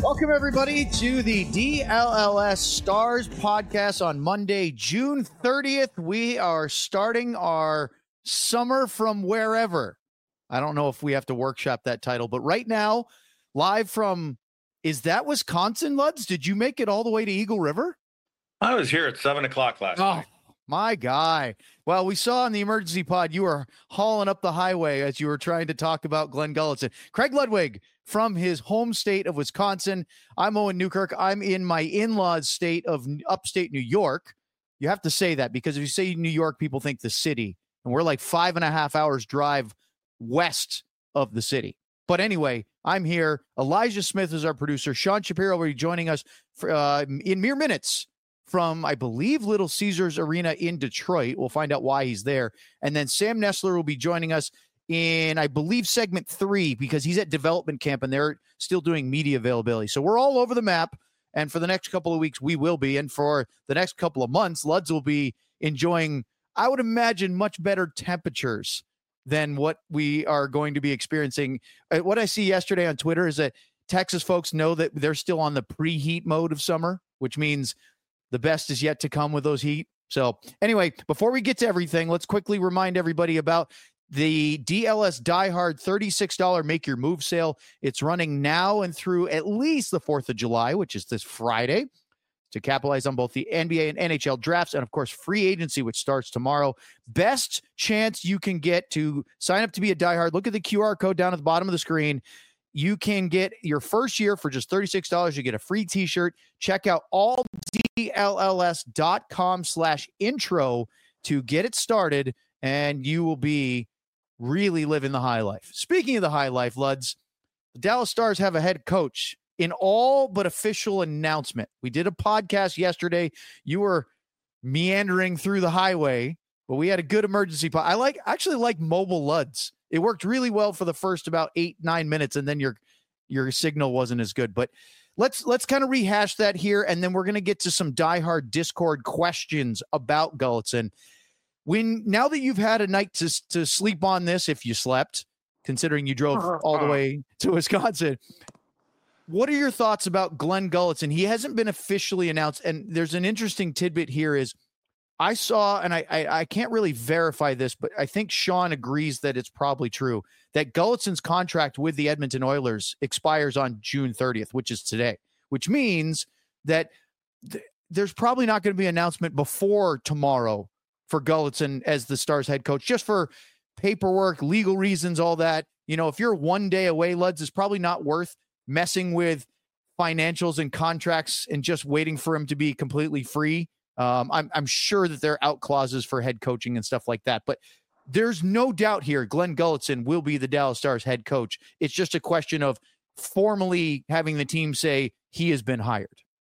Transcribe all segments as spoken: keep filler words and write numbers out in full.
Welcome, everybody, to the D L L S Stars podcast on Monday, June thirtieth. We are starting our summer from wherever. I don't know if we have to workshop that title, but right now, live from, is that Wisconsin, Luds? Did you make it all the way to Eagle River? I was here at seven o'clock last oh, night. My guy. Well, we saw on the emergency pod you were hauling up the highway as you were trying to talk about Glenn Gulutzan. Craig Ludwig from his home state of Wisconsin. I'm Owen Newkirk. I'm in my in-laws state of upstate New York. You have to say that because if you say New York, people think the city. And we're like five and a half hours drive west of the city. But anyway, I'm here. Elijah Smith is our producer. Sean Shapiro will be joining us for, uh, in mere minutes from, I believe, Little Caesars Arena in Detroit. We'll find out why he's there. And then Sam Nestler will be joining us in, I believe, segment three, because he's at development camp and they're still doing media availability. So we're all over the map. And for the next couple of weeks, we will be. And for the next couple of months, Luds will be enjoying, I would imagine, much better temperatures than what we are going to be experiencing. What I see yesterday on Twitter is that Texas folks know that they're still on the preheat mode of summer, which means the best is yet to come with those heat. So anyway, before we get to everything, let's quickly remind everybody about the D L S Die Hard thirty-six dollars Make Your Move sale. It's running now and through at least the fourth of July, which is this Friday, to capitalize on both the N B A and N H L drafts and, of course, free agency, which starts tomorrow. Best chance you can get to sign up to be a Die Hard. Look at the Q R code down at the bottom of the screen. You can get your first year for just thirty-six dollars. You get a free t-shirt. Check out all D L L S dot com slash intro to get it started, and you will be really living the high life. Speaking of the high life, Luds, the Dallas Stars have a head coach in all but official announcement. We did a podcast yesterday. You were meandering through the highway, but we had a good emergency pod. I like actually like mobile Luds. It worked really well for the first about eight, nine minutes, and then your your signal wasn't as good. But let's let's kind of rehash that here, and then we're going to get to some diehard Discord questions about Gulutzan. When now that you've had a night to to sleep on this, if you slept, considering you drove all the way to Wisconsin, what are your thoughts about Glenn Gulutzan? He hasn't been officially announced, and there's an interesting tidbit here is I saw, and I, I I can't really verify this, but I think Sean agrees that it's probably true, that Gulutzan's contract with the Edmonton Oilers expires on June thirtieth, which is today, which means that th- there's probably not going to be an announcement before tomorrow for Gulutzan as the Stars head coach, just for paperwork, legal reasons, all that. You know, if you're one day away, Luds, it's probably not worth messing with financials and contracts and just waiting for him to be completely free. Um, I'm, I'm sure that there are out clauses for head coaching and stuff like that, but there's no doubt here Glenn Gulutzan will be the Dallas Stars head coach. It's just a question of formally having the team say he has been hired.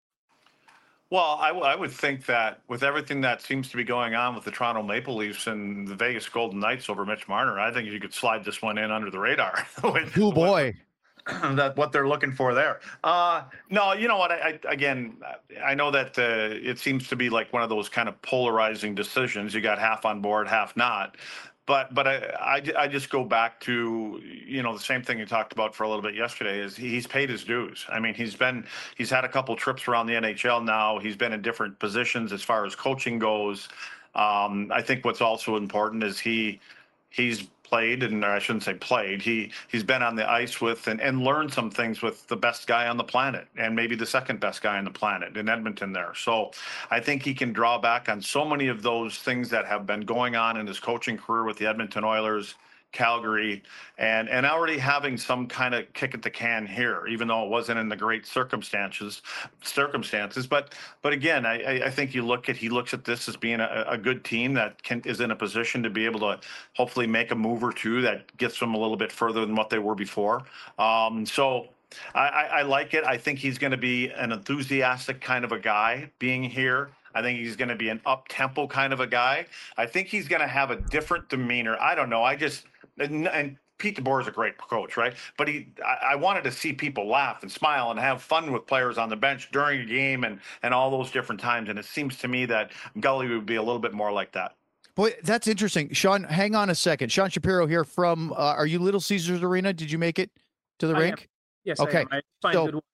Well, I, w- I would think that with everything that seems to be going on with the Toronto Maple Leafs and the Vegas Golden Knights over Mitch Marner, I think you could slide this one in under the radar. with, oh boy. With, that what they're looking for there. Uh, no, you know what? I, I again, I know that uh, it seems to be like one of those kind of polarizing decisions. You got half on board, half not. But but I, I, I just go back to, you know, the same thing you talked about for a little bit yesterday is he's paid his dues. I mean, he's been he's had a couple trips around the N H L now. He's been in different positions as far as coaching goes. Um, I think what's also important is he he's played, and I shouldn't say played, he he's been on the ice with and, and learned some things with the best guy on the planet and maybe the second best guy on the planet in Edmonton there. So I think he can draw back on so many of those things that have been going on in his coaching career with the Edmonton Oilers, Calgary, and and already having some kind of kick at the can here, even though it wasn't in the great circumstances circumstances. But but again, I, I think you look at he looks at this as being a, a good team that can is in a position to be able to hopefully make a move or two that gets them a little bit further than what they were before. Um, so I, I, I like it. I think he's going to be an enthusiastic kind of a guy being here. I think he's going to be an up-tempo kind of a guy. I think he's going to have a different demeanor. I don't know. I just and, and Pete DeBoer is a great coach, right? But he, I, I wanted to see people laugh and smile and have fun with players on the bench during a game and and all those different times. And it seems to me that Gully would be a little bit more like that. Boy, that's interesting. Sean, hang on a second. Sean Shapiro here from, uh, are you Little Caesars Arena? Did you make it to the I rink? am. Yes, okay. I am. I find so, good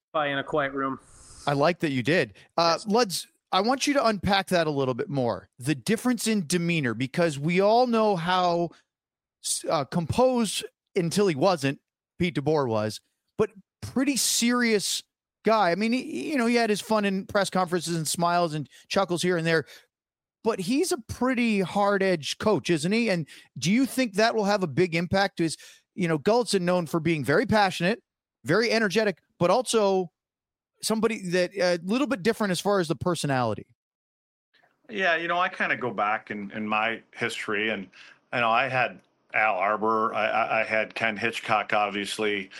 Probably in a quiet room. I like that you did. Uh, Yes. Luds, I want you to unpack that a little bit more. The difference in demeanor, because we all know how uh, composed until he wasn't, Pete DeBoer was, but pretty serious guy. I mean, he, you know, he had his fun in press conferences and smiles and chuckles here and there, but he's a pretty hard-edged coach, isn't he? And do you think that will have a big impact? To his, you know, Gulutzan known for being very passionate, very energetic, but also somebody that a uh, little bit different as far as the personality. Yeah, you know, I kind of go back in, in my history, and you know, I had Al Arbor, I, I had Ken Hitchcock, obviously.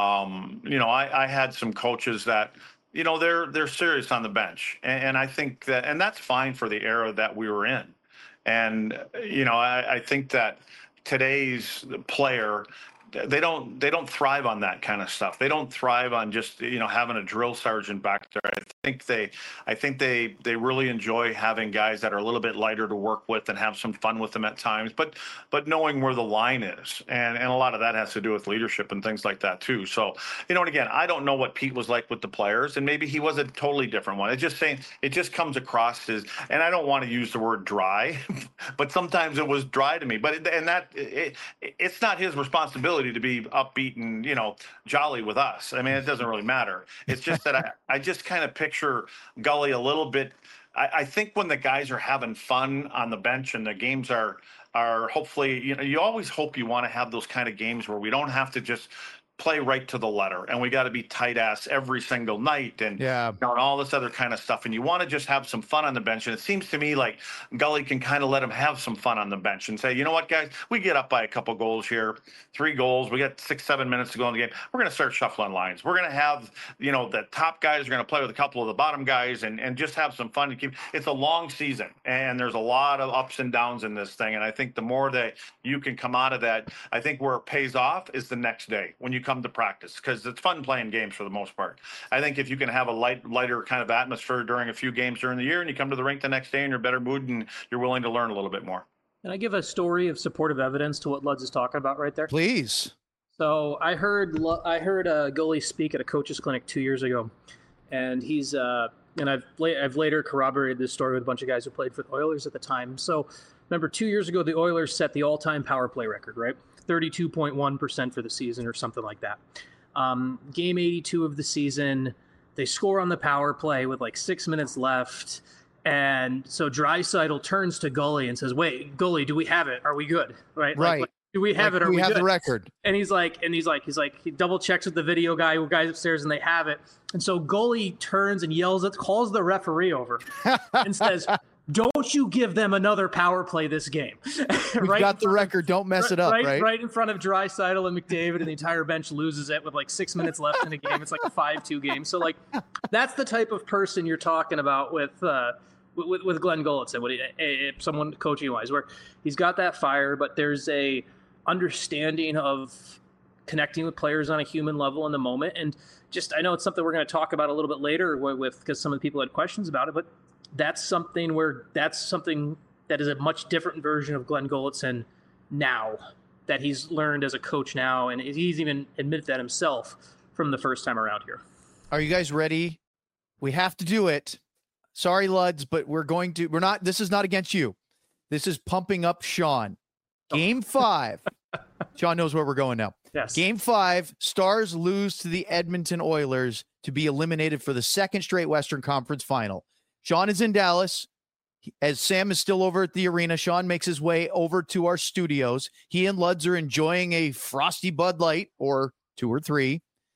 Um, you know, I, I had some coaches that, you know, they're they're serious on the bench, and, and I think that, and that's fine for the era that we were in. And you know, I, I think that today's player, they don't they don't thrive on that kind of stuff. They don't thrive on just, you know, having a drill sergeant back there. I think they I think they they really enjoy having guys that are a little bit lighter to work with and have some fun with them at times, but but knowing where the line is. And and a lot of that has to do with leadership and things like that too. So, you know, and again, I don't know what Pete was like with the players, and maybe he was a totally different one. It's just saying it just comes across as, and I don't want to use the word dry, but sometimes it was dry to me. But it, and that it, it's not his responsibility to be upbeat and, you know, jolly with us. I mean, it doesn't really matter. It's just that I, I just kind of picture Gully a little bit. I, I think when the guys are having fun on the bench and the games are, are hopefully, you know, you always hope you want to have those kind of games where we don't have to just play right to the letter, and we got to be tight ass every single night, and yeah, you know, and all this other kind of stuff. And you want to just have some fun on the bench. And it seems to me like Gully can kind of let him have some fun on the bench and say, you know what, guys, we get up by a couple goals here, three goals. We got six, seven minutes to go in the game. We're going to start shuffling lines. We're going to have, you know, the top guys are going to play with a couple of the bottom guys, and, and just have some fun to keep. It's a long season, and there's a lot of ups and downs in this thing. And I think the more that you can come out of that, I think where it pays off is the next day when you come to practice, because it's fun playing games for the most part. I think if you can have a light, lighter kind of atmosphere during a few games during the year, and you come to the rink the next day in your better mood and you're willing to learn a little bit more. Can I give a story of supportive evidence to what Luds is talking about right there? Please. So I heard I heard uh, Gully speak at a coach's clinic two years ago, and he's uh, and I've I've later corroborated this story with a bunch of guys who played for the Oilers at the time. So remember, two years ago the Oilers set the all-time power play record, right? thirty-two point one percent for the season or something like that. Um, game eighty-two of the season, they score on the power play with like six minutes left. And so Draisaitl turns to Gully and says, wait, Gully, do we have it? Are we good? Right. Right. Like, like, do we have like it? Are we, we have good? the record? And he's like, and he's like, he's like, he double checks with the video guy who guys upstairs and they have it. And so Gully turns and yells at, calls the referee over and says, don't you give them another power play this game. We've right got the record. Don't mess right, it up, right? right? Right in front of Draisaitl and McDavid, and the entire bench loses it with like six minutes left in the game. It's like a five two game. So like, that's the type of person you're talking about with uh, with, with Glenn Gulutzan, what he, a, a, someone coaching wise, where he's got that fire, but there's a understanding of connecting with players on a human level in the moment. And just, I know it's something we're going to talk about a little bit later with, because some of the people had questions about it, but that's something where that's something that is a much different version of Glenn Gulutzan now, that he's learned as a coach now. And he's even admitted that himself from the first time around here. Are you guys ready? We have to do it. Sorry, Luds, but we're going to, we're not, this is not against you. This is pumping up Sean. Game five. Sean knows where we're going now. Yes. Game five, Stars lose to the Edmonton Oilers to be eliminated for the second straight Western Conference final. Sean is in Dallas. As Sam is still over at the arena, Sean makes his way over to our studios. He and Luds are enjoying a frosty Bud Light, or two or three.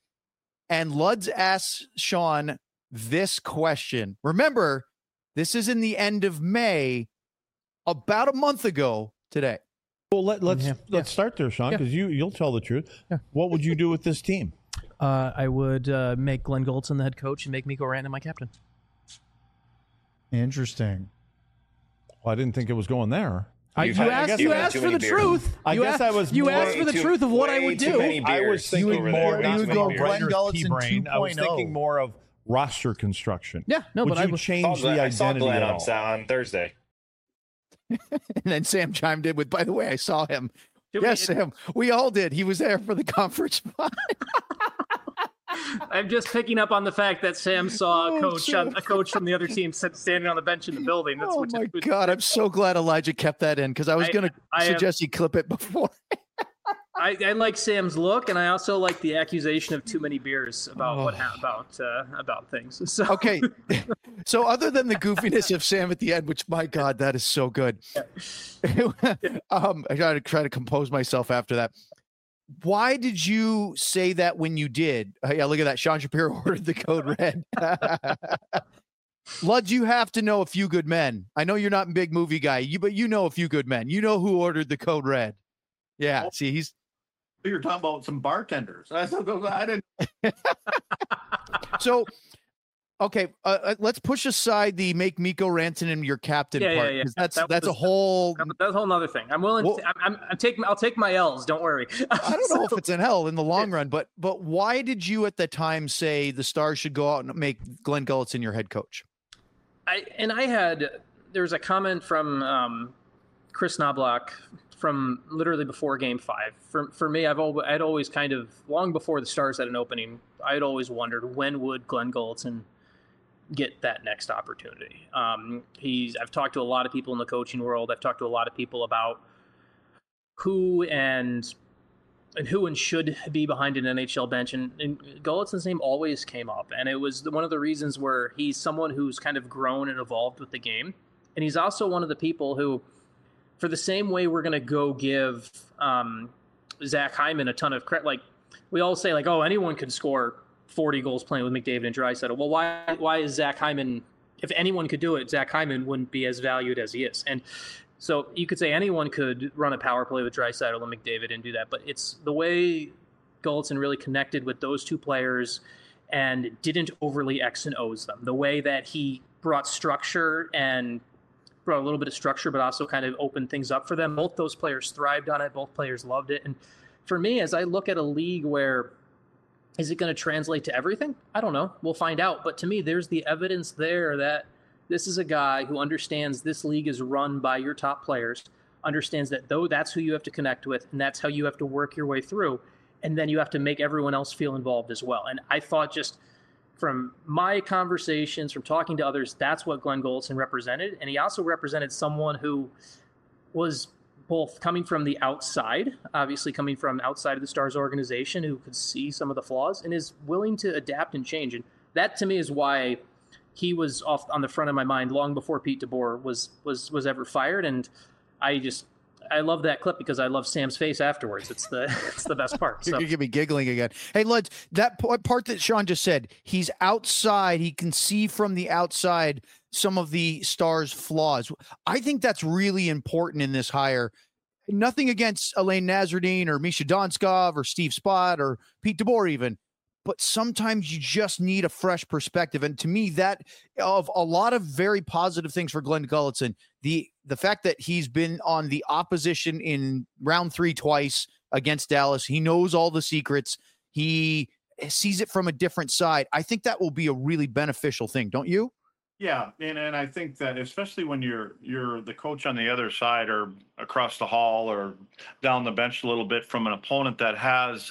And Luds asks Sean this question. Remember, this is in the end of May, about a month ago today. Well, let, let's Yeah. let's Yeah. start there, Sean, because Yeah. you you'll tell the truth. Yeah. What would you do with this team? Uh, I would uh, make Glenn Gulutzan the head coach and make Mikko Rantanen my captain. Interesting. Well, I didn't think it was going there. I, You've you had- I asked, guess you you've had asked too for the many beers. truth. I you guess asked, I was You more- asked for the Way truth of what I way would too do. many I was beers thinking over more. there. Not Not too many more beers. Glenn Glenn Gulutzan P brain. I was 2.0. thinking more of roster construction. Yeah, no, would but I you would change Saw the Glenn- I saw identity Glenn at on, all? Sa- on Thursday. And then Sam chimed in with, by the way, I saw him. Did yes, we- Sam. We all did. He was there for the conference. I'm just picking up on the fact that Sam saw a Oh, coach, Sam. on, a coach from the other team sit- standing on the bench in the building. That's Oh which, my which, God, I'm so glad Elijah kept that in because I was I- going to I am- suggest you clip it before. I, I like Sam's look, and I also like the accusation of too many beers about what ha- about uh, about things. So Okay, so other than the goofiness of Sam at the end, which my God, that is so good. um, I gotta try to compose myself after that. Why did you say that when you did? Uh, yeah, look at that. Sean Shapiro ordered the code red. Luds, you have to know A Few Good Men. I know you're not a big movie guy, you but you know A Few Good Men. You know who ordered the code red. Yeah, see, he's You're talking about some bartenders. I, I didn't. so. Okay, uh, uh, let's push aside the make Mikko Rantanen your captain Yeah, yeah, part yeah. 'cause that's That that's a was- whole. That- that's a whole other thing. I'm willing. Well- to, I'm, I'm, I'm taking. I'll take. I'll take my L's. Don't worry. I don't know if it's in hell in the long run, but but why did you at the time say the Stars should go out and make Glenn Gulutzan your head coach? I and I had there was a comment from um, Chris Knobloch from literally before Game Five. For for me, I've always I'd always kind of long before the Stars had an opening, I'd always wondered when would Glenn Gulutzan get that next opportunity. Um, he's I've talked to a lot of people in the coaching world. I've talked to a lot of people about who and and who and should be behind an N H L bench. And, and Gulutzan's name always came up. And it was one of the reasons where he's someone who's kind of grown and evolved with the game. And he's also one of the people who, for the same way we're going to go give um, Zach Hyman a ton of credit, like we all say, like, oh, anyone could score forty goals playing with McDavid and Draisaitl. Well, why why is Zach Hyman, if anyone could do it, Zach Hyman wouldn't be as valued as he is. And so you could say anyone could run a power play with Draisaitl and McDavid and do that, but it's the way Gulutzan really connected with those two players and didn't overly X and O's them. The way that he brought structure and brought a little bit of structure, but also kind of opened things up for them. Both those players thrived on it. Both players loved it. And for me, as I look at a league where is it going to translate to everything? I don't know. We'll find out. But to me, there's the evidence there that this is a guy who understands this league is run by your top players, understands that though that's who you have to connect with, and that's how you have to work your way through. And then you have to make everyone else feel involved as well. And I thought just from my conversations, from talking to others, that's what Glenn Gulutzan represented. And he also represented someone who was both coming from the outside, obviously coming from outside of the Stars organization, who could see some of the flaws and is willing to adapt and change. And that to me is why he was off on the front of my mind long before Pete DeBoer was was was ever fired. And I just I love that clip because I love Sam's face afterwards. It's the it's the best part. You're So gonna get me giggling again. Hey, Lud, that p- part that Sean just said, he's outside. He can see from the outside some of the Stars' flaws. I think that's really important in this hire. Nothing against Elaine Nazardine or Misha Donskov or Steve Spott or Pete DeBoer even, but sometimes you just need a fresh perspective. And to me, that of a lot of very positive things for Glenn Gulutzan, the the fact that he's been on the opposition in round three twice against Dallas, he knows all the secrets. He sees it from a different side. I think that will be a really beneficial thing, don't you? Yeah, and, and I think that especially when you're you're the coach on the other side or across the hall or down the bench a little bit from an opponent that has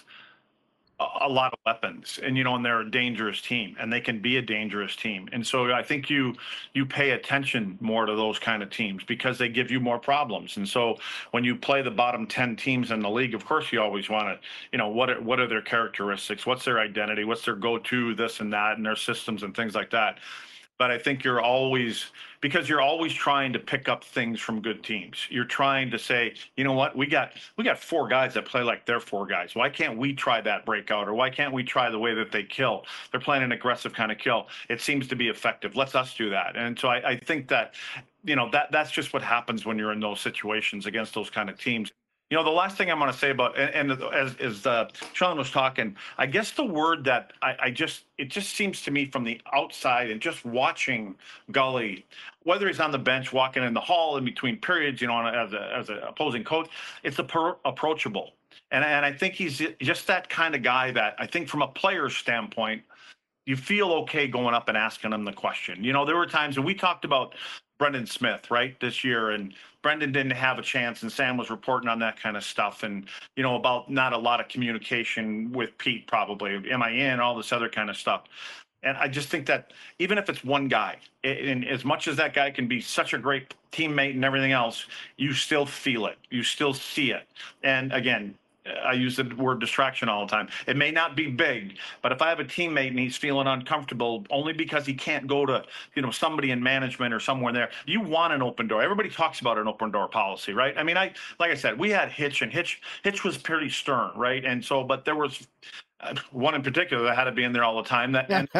a, a lot of weapons, and you know, and they're a dangerous team, and they can be a dangerous team, and so I think you you pay attention more to those kind of teams because they give you more problems. And so when you play the bottom ten teams in the league, of course you always want to, you know, what are, what are their characteristics, what's their identity, what's their go-to, this and that, and their systems and things like that. But I think you're always, because you're always trying to pick up things from good teams. You're trying to say, you know what, we got we got four guys that play like they're four guys. Why can't we try that breakout? Or why can't we try the way that they kill? They're playing an aggressive kind of kill. It seems to be effective. Let's us do that. And so I, I think that, you know, that that's just what happens when you're in those situations against those kind of teams. You know, the last thing I'm going to say about, and, and as, as uh, Sean was talking, I guess the word that I, I just, it just seems to me from the outside and just watching Gully, whether he's on the bench, walking in the hall in between periods, you know, as a, as an opposing coach, it's a approachable. And, and I think he's just that kind of guy that I think from a player's standpoint, you feel okay going up and asking him the question. You know, there were times, and we talked about Brendan Smith, right, this year, and Brendan didn't have a chance, and Sam was reporting on that kind of stuff, and, you know, about not a lot of communication with Pete, probably. Am I in? All this other kind of stuff. And I just think that even if it's one guy, and as much as that guy can be such a great teammate and everything else, you still feel it. You still see it. And again, I use the word distraction all the time. It may not be big, but if I have a teammate and he's feeling uncomfortable only because he can't go to, you know, somebody in management or somewhere there, you want an open door. Everybody talks about an open door policy, right? I mean, I like I said, we had Hitch, and Hitch Hitch was pretty stern, right? And so, but there was uh, one in particular that had to be in there all the time. That and,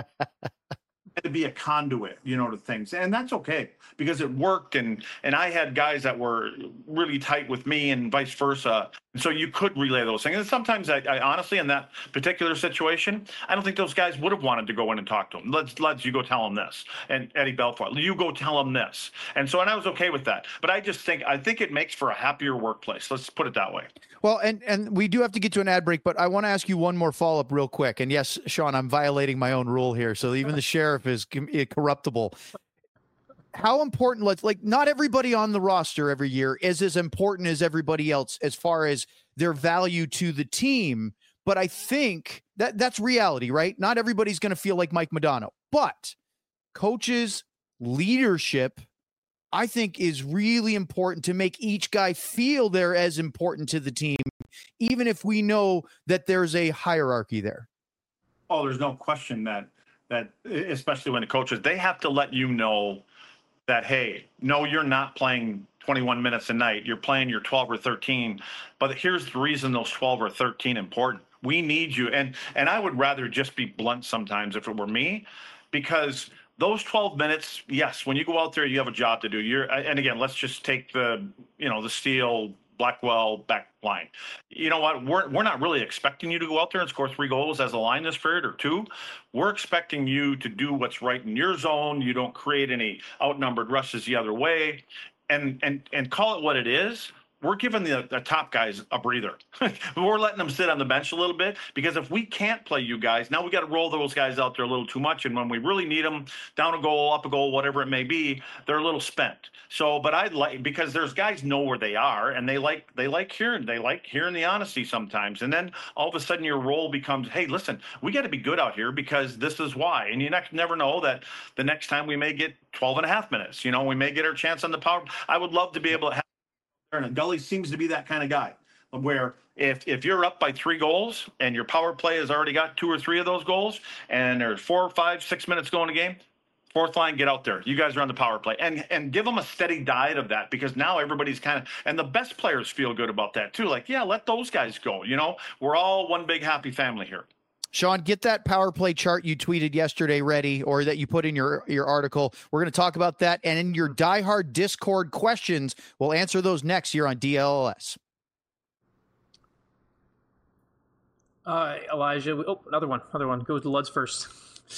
had to be a conduit, you know, to things, and that's okay because it worked. And and I had guys that were really tight with me, and vice versa. And so you could relay those things. And sometimes, I, I honestly, in that particular situation, I don't think those guys would have wanted to go in and talk to him. Let's let's you go tell him this, and Eddie Belfour, you go tell him this. And so, and I was okay with that. But I just think I think it makes for a happier workplace. Let's put it that way. Well, and and we do have to get to an ad break, but I want to ask you one more follow up real quick. And yes, Sean, I'm violating my own rule here, so even the sheriff is corruptible. How important, let's like, not everybody on the roster every year is as important as everybody else as far as their value to the team. But I think that that's reality, right? Not everybody's going to feel like Mike Modano, but coaches' leadership, I think, is really important to make each guy feel they're as important to the team, even if we know that there's a hierarchy there. Oh, there's no question that, that especially when the coaches, they have to let you know that, hey, no, you're not playing twenty-one minutes a night. You're playing your twelve or thirteen. But here's the reason those twelve or thirteen important. We need you. And and I would rather just be blunt sometimes if it were me, because those twelve minutes, yes, when you go out there, you have a job to do. You're, and again, let's just take the, you know, the Steel Blackwell back line. You know what? We're we're not really expecting you to go out there and score three goals as a line this period or two. We're expecting you to do what's right in your zone. You don't create any outnumbered rushes the other way, and and and call it what it is. We're giving the, the top guys a breather. We're letting them sit on the bench a little bit, because if we can't play you guys, now we got to roll those guys out there a little too much. And when we really need them, down a goal, up a goal, whatever it may be, they're a little spent. So, but I'd like, because there's guys know where they are, and they like, they like hearing, they like hearing the honesty sometimes. And then all of a sudden your role becomes, hey, listen, we got to be good out here because this is why. And you ne- never know that the next time we may get twelve and a half minutes, you know, we may get our chance on the power. I would love to be able to have, and Gully seems to be that kind of guy, where if if you're up by three goals and your power play has already got two or three of those goals, and there's four, five, six minutes going a game, fourth line, get out there. You guys are on the power play, and and give them a steady diet of that, because now everybody's kind of, and the best players feel good about that too. Like, yeah, let those guys go. You know, we're all one big happy family here. Sean, get that power play chart you tweeted yesterday ready, or that you put in your, your article. We're going to talk about that. And in your diehard Discord questions, we'll answer those next here on D L L S. Uh, Elijah, oh, another one, another one. Goes to Luds first.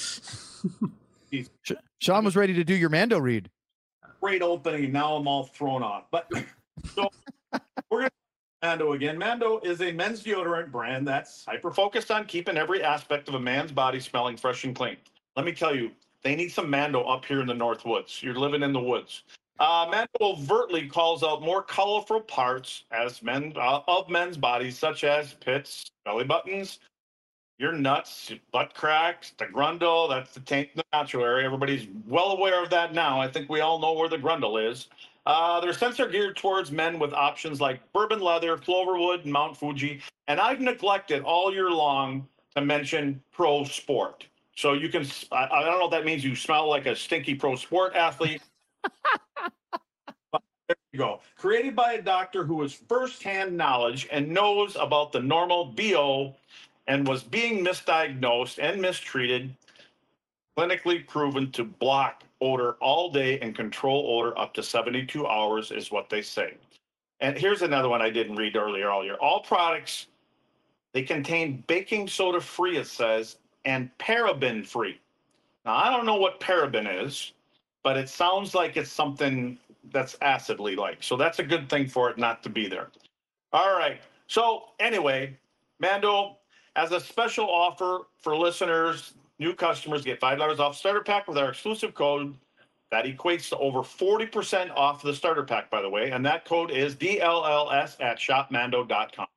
Sean was ready to do your Mando read. Great opening. Now I'm all thrown off. But so we're going to Mando again. Mando is a men's deodorant brand that's hyper-focused on keeping every aspect of a man's body smelling fresh and clean. Let me tell you, they need some Mando up here in the North Woods. You're living in the woods. Uh, Mando overtly calls out more colorful parts as men uh, of men's bodies, such as pits, belly buttons, your nuts, your butt cracks, the grundle. That's the taint in the natural area. Everybody's well aware of that now. I think we all know where the grundle is. Uh, their scents are geared towards men with options like bourbon leather, Cloverwood, and Mount Fuji. And I've neglected all year long to mention pro sport. So you can, I, I don't know if that means you smell like a stinky pro sport athlete. But there you go. Created by a doctor who has firsthand knowledge and knows about the normal B O and was being misdiagnosed and mistreated, clinically proven to block odor all day and control odor up to seventy-two hours is what they say. And here's another one I didn't read earlier all year. All products, they contain baking soda free, it says, and paraben free. Now, I don't know what paraben is, but it sounds like it's something that's acidly like. So that's a good thing for it not to be there. All right. So anyway, Mando, as a special offer for listeners, new customers get five dollars off starter pack with our exclusive code. That equates to over forty percent off the starter pack, by the way. And that code is D L L S at shop mando dot com.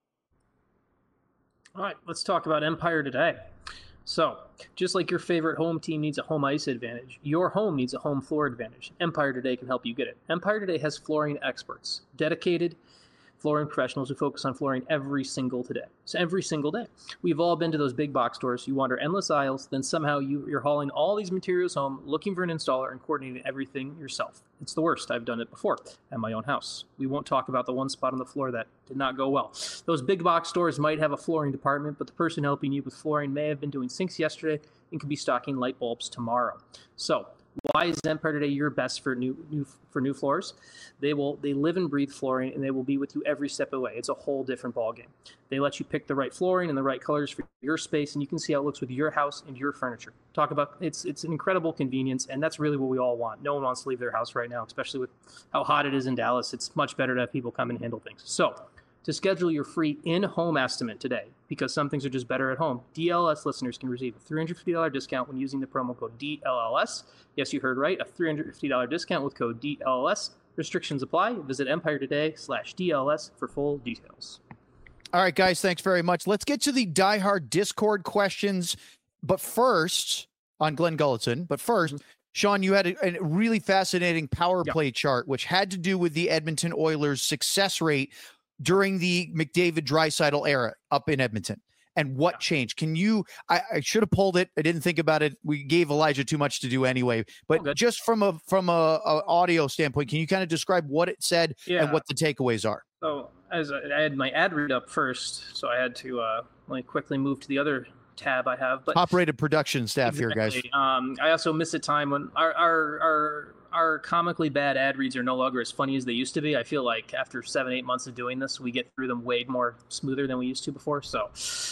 All right, let's talk about Empire Today. So, just like your favorite home team needs a home ice advantage, your home needs a home floor advantage. Empire Today can help you get it. Empire Today has flooring experts, dedicated flooring professionals who focus on flooring every single today. So every single day. We've all been to those big box stores. You wander endless aisles, then somehow you, you're hauling all these materials home, looking for an installer and coordinating everything yourself. It's the worst. I've done it before at my own house. We won't talk about the one spot on the floor that did not go well. Those big box stores might have a flooring department, but the person helping you with flooring may have been doing sinks yesterday and could be stocking light bulbs tomorrow. So why is Empire Today your best for new, new for new floors? They will they live and breathe flooring, and they will be with you every step of the way. It's a whole different ballgame. They let you pick the right flooring and the right colors for your space, and you can see how it looks with your house and your furniture. Talk about it's it's an incredible convenience, and that's really what we all want. No one wants to leave their house right now, especially with how hot it is in Dallas. It's much better to have people come and handle things. So, to schedule your free in-home estimate today, because some things are just better at home, D L S listeners can receive a three hundred fifty dollars discount when using the promo code D L L S. Yes, you heard right, a three hundred fifty dollars discount with code D L L S. Restrictions apply. Visit Empire Today slash D L S for full details. All right, guys, thanks very much. Let's get to the diehard Discord questions. But first, on Glenn Gulutzan, but first, mm-hmm. Sean, you had a, a really fascinating power yep. play chart, which had to do with the Edmonton Oilers' success rate during the McDavid-Draisaitl era up in Edmonton, and what changed. Can you, I, I should have pulled it. I didn't think about it. We gave Elijah too much to do anyway, but oh, just from a, from a, a audio standpoint, can you kind of describe what it said yeah. and what the takeaways are? So as I, I had my ad read up first, so I had to uh, let me quickly move to the other tab I have, but top-rated production staff exactly. here, guys. Um, I also miss a time when our, our, our, our comically bad ad reads are no longer as funny as they used to be. I feel like after seven, eight months of doing this, we get through them way more smoother than we used to before. So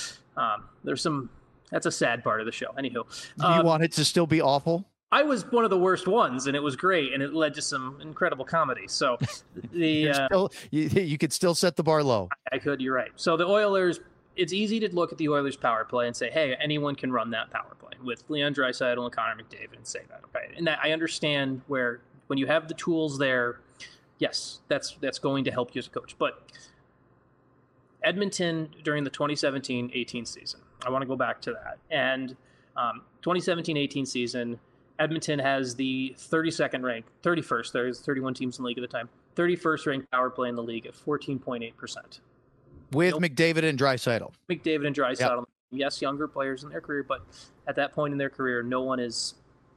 um, there's some, that's a sad part of the show. Anywho. Do you um, want it to still be awful? I was one of the worst ones, and it was great, and it led to some incredible comedy. So the uh, still, you, you could still set the bar low. I could, you're right. So the Oilers, it's easy to look at the Oilers power play and say, hey, anyone can run that power play with Leon Draisaitl and Connor McDavid and say that. Okay. And that I understand where when you have the tools there, yes, that's that's going to help you as a coach. But Edmonton during the twenty seventeen eighteen season, I want to go back to that. And um, twenty seventeen eighteen season, Edmonton has the thirty-second ranked, thirty-first, there's thirty-one teams in the league at the time, thirty-first ranked power play in the league at fourteen point eight percent. With nope. McDavid and Draisaitl. McDavid and Draisaitl. Yep. Yes, younger players in their career, but at that point in their career, no one is.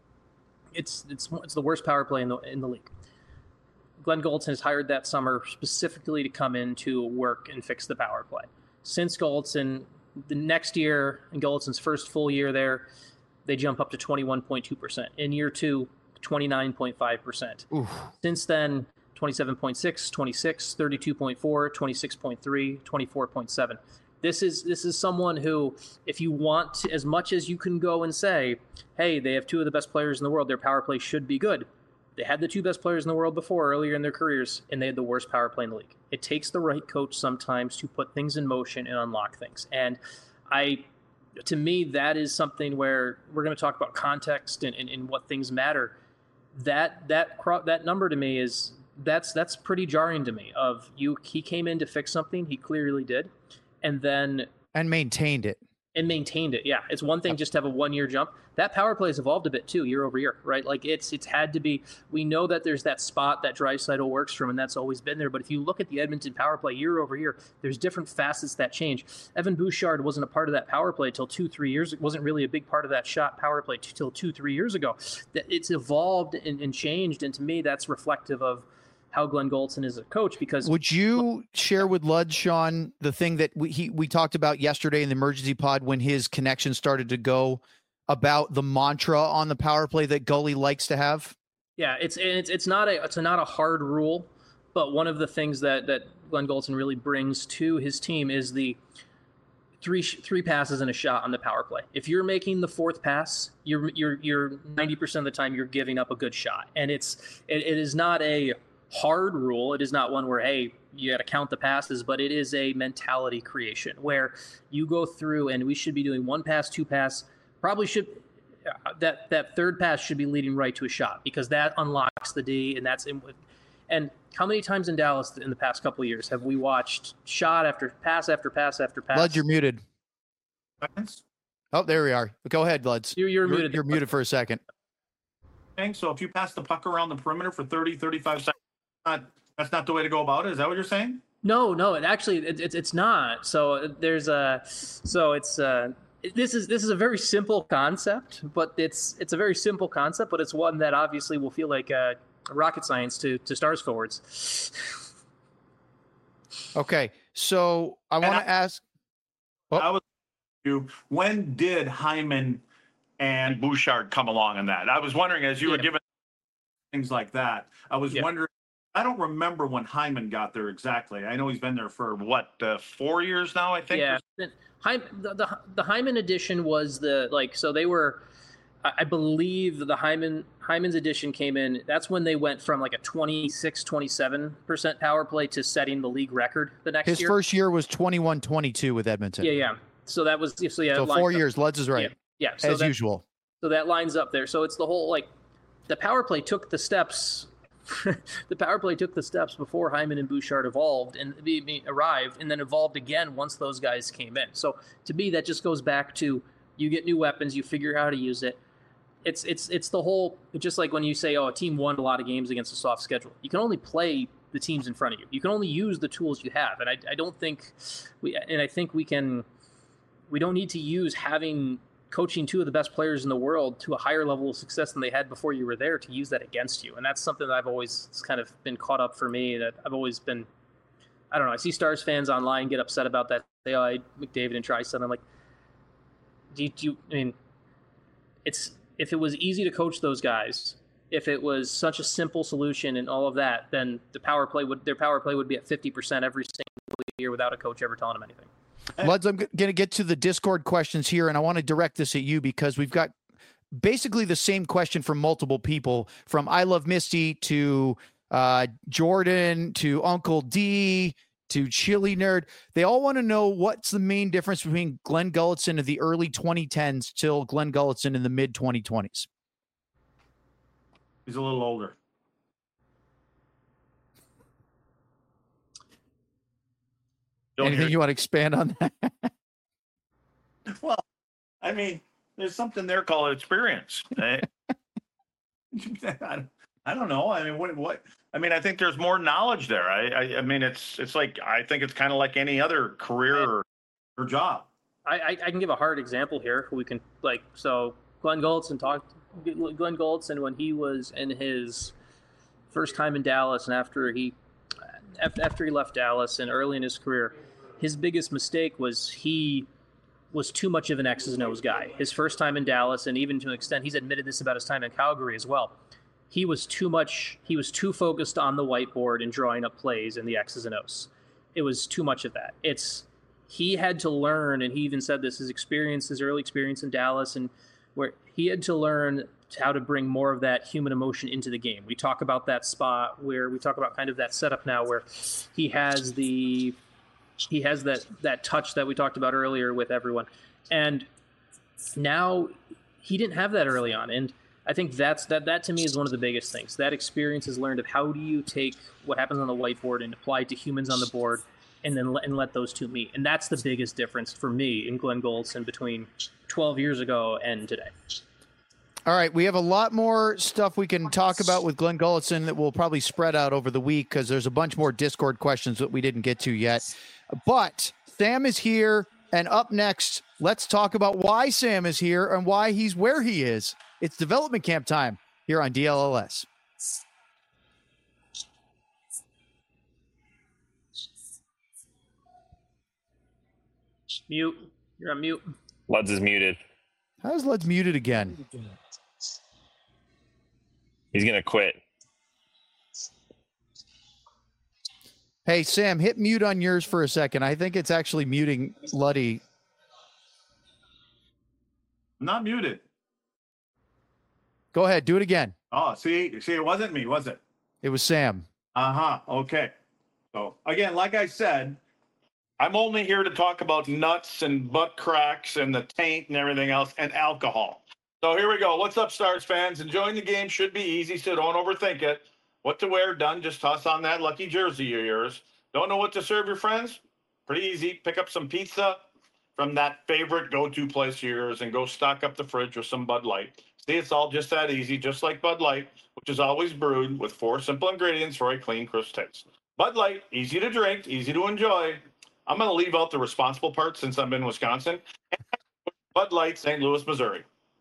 It's it's it's the worst power play in the in the league. Glenn Gulutzan has hired that summer specifically to come in to work and fix the power play. Since Gulutzan, the next year, in Gulutzan's first full year there, they jump up to twenty-one point two percent. In year two, twenty-nine point five percent. Since then, twenty-seven point six, twenty-six, thirty-two point four, twenty-six point three, twenty-four point seven. This is this is someone who, if you want to, as much as you can go and say, hey, they have two of the best players in the world, their power play should be good. They had the two best players in the world before, earlier in their careers, and they had the worst power play in the league. It takes the right coach sometimes to put things in motion and unlock things. And I, to me, that is something where we're going to talk about context and, and, and what things matter. That that that number to me is that's that's pretty jarring to me. Of you, he came in to fix something, he clearly did. And then and maintained it and maintained it. Yeah. It's one thing just to have a one year jump. That power play has evolved a bit too, year over year, right? Like it's, it's had to be, we know that there's that spot that Draisaitl works from, and that's always been there. But if you look at the Edmonton power play year over year, there's different facets that change. Evan Bouchard wasn't a part of that power play till two, three years. It wasn't really a big part of that shot power play till two, three years ago. That it's evolved and, and changed. And to me, that's reflective of how Glenn Gulutzan is a coach. Because would you share with Lud, Sean, the thing that we he, we talked about yesterday in the emergency pod when his connection started to go, about the mantra on the power play that Gully likes to have? Yeah, it's it's it's not a it's not a hard rule, but one of the things that that Glenn Gulutzan really brings to his team is the three three passes and a shot on the power play. If you're making the fourth pass, you're you're you're ninety percent of the time you're giving up a good shot, and it's it, it is not a hard rule. It is not one where, hey, you got to count the passes, but it is a mentality creation where you go through and we should be doing one pass, two pass, probably should uh, that that third pass should be leading right to a shot because that unlocks the D, and that's in, and how many times in Dallas in the past couple of years have we watched shot after pass after pass after pass? Luds, you're muted. Oh, there we are. Go ahead, Luds. You're, you're, you're muted. You're muted for a second. So if you pass the puck around the perimeter for thirty, thirty-five seconds, not, that's not the way to go about it. Is that what you're saying? No, no, it actually it, it, it's not. So there's a so it's uh this is this is a very simple concept, but it's it's a very simple concept, but it's one that obviously will feel like uh, rocket science to to Stars forwards. Okay, so I want to ask. Oh. I was you. When did Hyman and Bouchard come along in that? I was wondering as you yeah. were giving things like that. I was yeah. wondering. I don't remember when Hyman got there exactly. I know he's been there for what uh, four years now. I think. Yeah, the, the the Hyman edition was the like so they were. I believe the Hyman Hyman's edition came in. That's when they went from like a twenty-six, twenty-seven percent power play to setting the league record the next His year. His first year was twenty-one twenty-two with Edmonton. Yeah, yeah. So that was so yeah. So four years. Luds is right. Yeah, yeah. So as that, usual. So that lines up there. So it's the whole like the power play took the steps. the power play took the steps before Hyman and Bouchard evolved and arrived, and then evolved again once those guys came in. So to me, that just goes back to you get new weapons, you figure out how to use it. It's it's it's the whole just like when you say, oh, a team won a lot of games against a soft schedule. You can only play the teams in front of you. You can only use the tools you have, and I I don't think we and I think we can we don't need to use having coaching two of the best players in the world to a higher level of success than they had before you were there to use that against you. And that's something that I've always kind of been caught up for me that I've always been, I don't know. I see Stars fans online get upset about that. Say, oh, I, McDavid and Trice. I'm like, do you, do you, I mean, it's, if it was easy to coach those guys, if it was such a simple solution and all of that, then the power play would, their power play would be at fifty percent every single year without a coach ever telling them anything. Luds, I'm going to get to the Discord questions here, and I want to direct this at you because we've got basically the same question from multiple people, from I Love Misty to uh, Jordan to Uncle D to Chili Nerd. They all want to know what's the main difference between Glenn Gulutzan of the early twenty tens till Glenn Gulutzan in the mid twenty twenties. He's a little older. Don't Anything you want to expand on that? Well, I mean, there's something there called experience. I, I don't know. I mean, what, what? I mean, I think there's more knowledge there. I, I, I mean, it's, it's like I think it's kind of like any other career or, or job. I, I, I can give a hard example here. We can like so. Glenn Gulutzan talked. Glenn Gulutzan when he was in his first time in Dallas, and after he after he left Dallas and early in his career, his biggest mistake was he was too much of an X's and O's guy. His first time in Dallas, and even to an extent, he's admitted this about his time in Calgary as well. He was too much, he was too focused on the whiteboard and drawing up plays and the X's and O's. It was too much of that. It's, he had to learn, and he even said this, his experience, his early experience in Dallas, and where he had to learn how to bring more of that human emotion into the game. We talk about that spot where we talk about kind of that setup now where he has the he has that that touch that we talked about earlier with everyone. And now he didn't have that early on. And I think that's that that to me is one of the biggest things. That experience is learned of how do you take what happens on the whiteboard and apply it to humans on the board and then let, and let those two meet. And that's the biggest difference for me in Glenn Gulutzan between twelve years ago and today. All right, we have a lot more stuff we can talk about with Glenn Gulutzan that will probably spread out over the week because there's a bunch more Discord questions that we didn't get to yet. But Sam is here, and up next, let's talk about why Sam is here and why he's where he is. It's development camp time here on D L L S. Mute. You're on mute. Luds is muted. How's Luds muted again? He's going to quit. Hey, Sam, hit mute on yours for a second. I think it's actually muting Luddy. I'm not muted. Go ahead. Do it again. Oh, see, see, it wasn't me, was it? It was Sam. Uh-huh. Okay. So, again, like I said, I'm only here to talk about nuts and butt cracks and the taint and everything else and alcohol. So here we go. What's up, Stars fans? Enjoying the game should be easy, so don't overthink it. What to wear, done. Just toss on that lucky jersey of yours. Don't know what to serve your friends? Pretty easy. Pick up some pizza from that favorite go-to place of yours and go stock up the fridge with some Bud Light. See, it's all just that easy, just like Bud Light, which is always brewed with four simple ingredients for a clean, crisp taste. Bud Light, easy to drink, easy to enjoy. I'm going to leave out the responsible part since I'm in Wisconsin. Bud Light, Saint Louis, Missouri.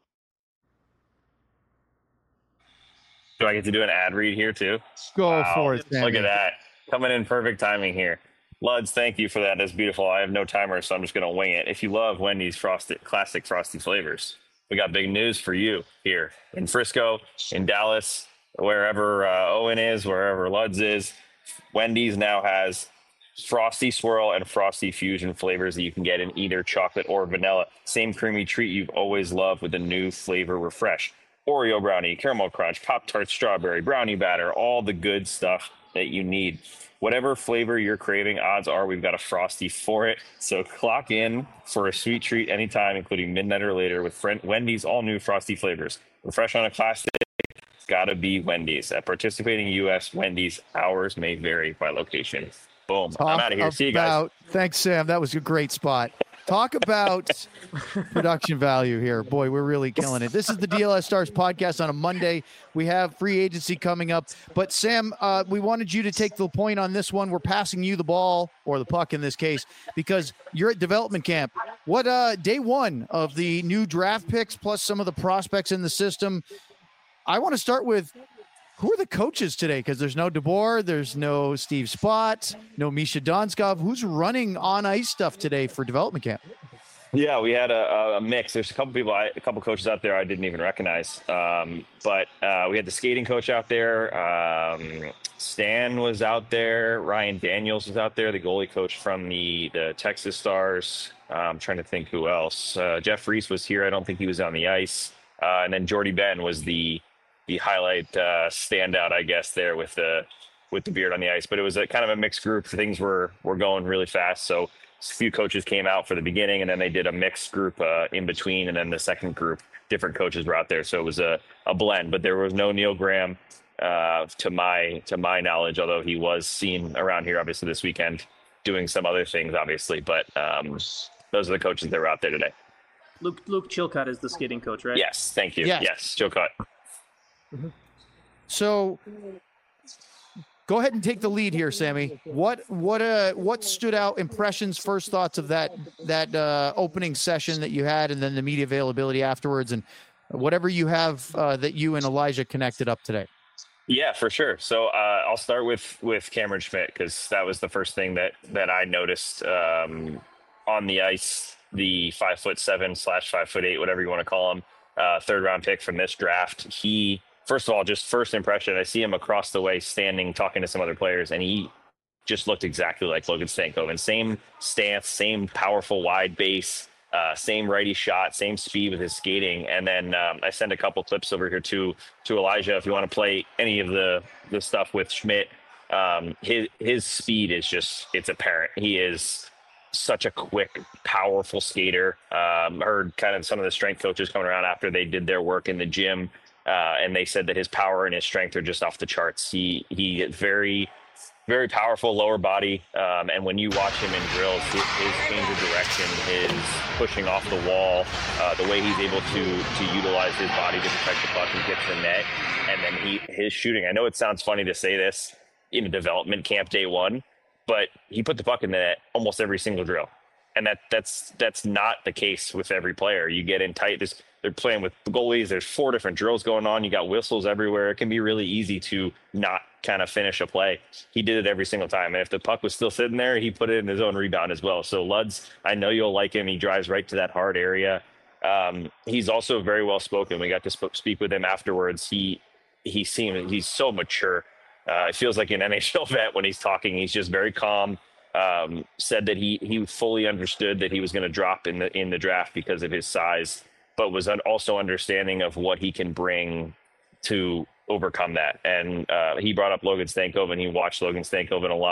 Do I get to do an ad read here too? Go Wow. for it, Sammy. Look at that. Coming in perfect timing here. Luds, thank you for that. That's beautiful. I have no timer, so I'm just going to wing it. If you love Wendy's frosted, classic frosty flavors, we got big news for you here in Frisco, in Dallas, wherever uh, Owen is, wherever Luds is. Wendy's now has Frosty Swirl and Frosty Fusion flavors that you can get in either chocolate or vanilla. Same creamy treat you've always loved with a new flavor refresh. Oreo brownie, caramel crunch, Pop-Tart strawberry, brownie batter, all the good stuff that you need. Whatever flavor you're craving, odds are we've got a Frosty for it. So clock in for a sweet treat anytime, including midnight or later with friend Wendy's all new Frosty flavors. Refresh on a classic, it's gotta be Wendy's. At participating U S Wendy's, hours may vary by location. Boom. Talk I'm out of here. See you guys. about- Thanks, Sam. That was a great spot. Talk about production value here. Boy, we're really killing it. This is the D L S Stars podcast on a Monday. We have free agency coming up. But, Sam, uh, we wanted you to take the point on this one. We're passing you the ball, or the puck in this case, because you're at development camp. What uh, day one of the new draft picks plus some of the prospects in the system? I want to start with, who are the coaches today? Because there's no DeBoer, there's no Steve Spott, no Misha Donskov. Who's running on ice stuff today for development camp? Yeah, we had a, a mix. There's a couple people, I, a couple coaches out there I didn't even recognize. Um, but uh, we had the skating coach out there. Um, Stan was out there. Ryan Daniels was out there, the goalie coach from the, the Texas Stars. Uh, I'm trying to think who else. Uh, Jeff Reese was here. I don't think he was on the ice. Uh, and then Jordy Ben was the the highlight uh, standout, I guess, there with the with the beard on the ice. But it was a kind of a mixed group. Things were were going really fast. So a few coaches came out for the beginning, and then they did a mixed group uh, in between. And then the second group, different coaches were out there. So it was a, a blend. But there was no Neil Graham uh, to my to my knowledge, although he was seen around here, obviously, this weekend doing some other things, obviously. But um, those are the coaches that were out there today. Luke Luke Chilcott is the skating coach, right? Yes, thank you. Yes. Yes, Chilcott. So go ahead and take the lead here, Sammy. What what uh what stood out? Impressions, first thoughts of that that uh, opening session that you had, and then the media availability afterwards, and whatever you have uh, that you and Elijah connected up today. Yeah, for sure. So uh, I'll start with with Cameron Schmidt, because that was the first thing that that I noticed um, on the ice. The five foot seven slash five foot eight, whatever you want to call him, uh, third round pick from this draft. He First of all, just first impression, I see him across the way standing, talking to some other players, and he just looked exactly like Logan Stankoven. Same stance, same powerful wide base, uh, same righty shot, same speed with his skating. And then um, I sent a couple clips over here to to Elijah if you want to play any of the the stuff with Schmidt. Um, his his speed is just, it's apparent. He is such a quick, powerful skater. Um, heard kind of some of the strength coaches coming around after they did their work in the gym. Uh, and they said that his power and his strength are just off the charts. He he is very, very powerful lower body. Um, and when you watch him in drills, his, his change of direction, his pushing off the wall, uh, the way he's able to to utilize his body to protect the puck and get to the net, and then he his shooting. I know it sounds funny to say this in a development camp day one, but he put the puck in the net almost every single drill. And that that's that's not the case with every player. You get in tight. This, they're playing with goalies. There's four different drills going on. You got whistles everywhere. It can be really easy to not kind of finish a play. He did it every single time. And if the puck was still sitting there, he put it in his own rebound as well. So Luds, I know you'll like him. He drives right to that hard area. Um, he's also very well spoken. We got to sp- speak with him afterwards. He he seemed he's so mature. Uh, it feels like an N H L vet when he's talking. He's just very calm. Um, said that he he fully understood that he was going to drop in the in the draft because of his size, but was also understanding of what he can bring to overcome that. And uh, he brought up Logan Stankoven. He watched Logan Stankoven a lot.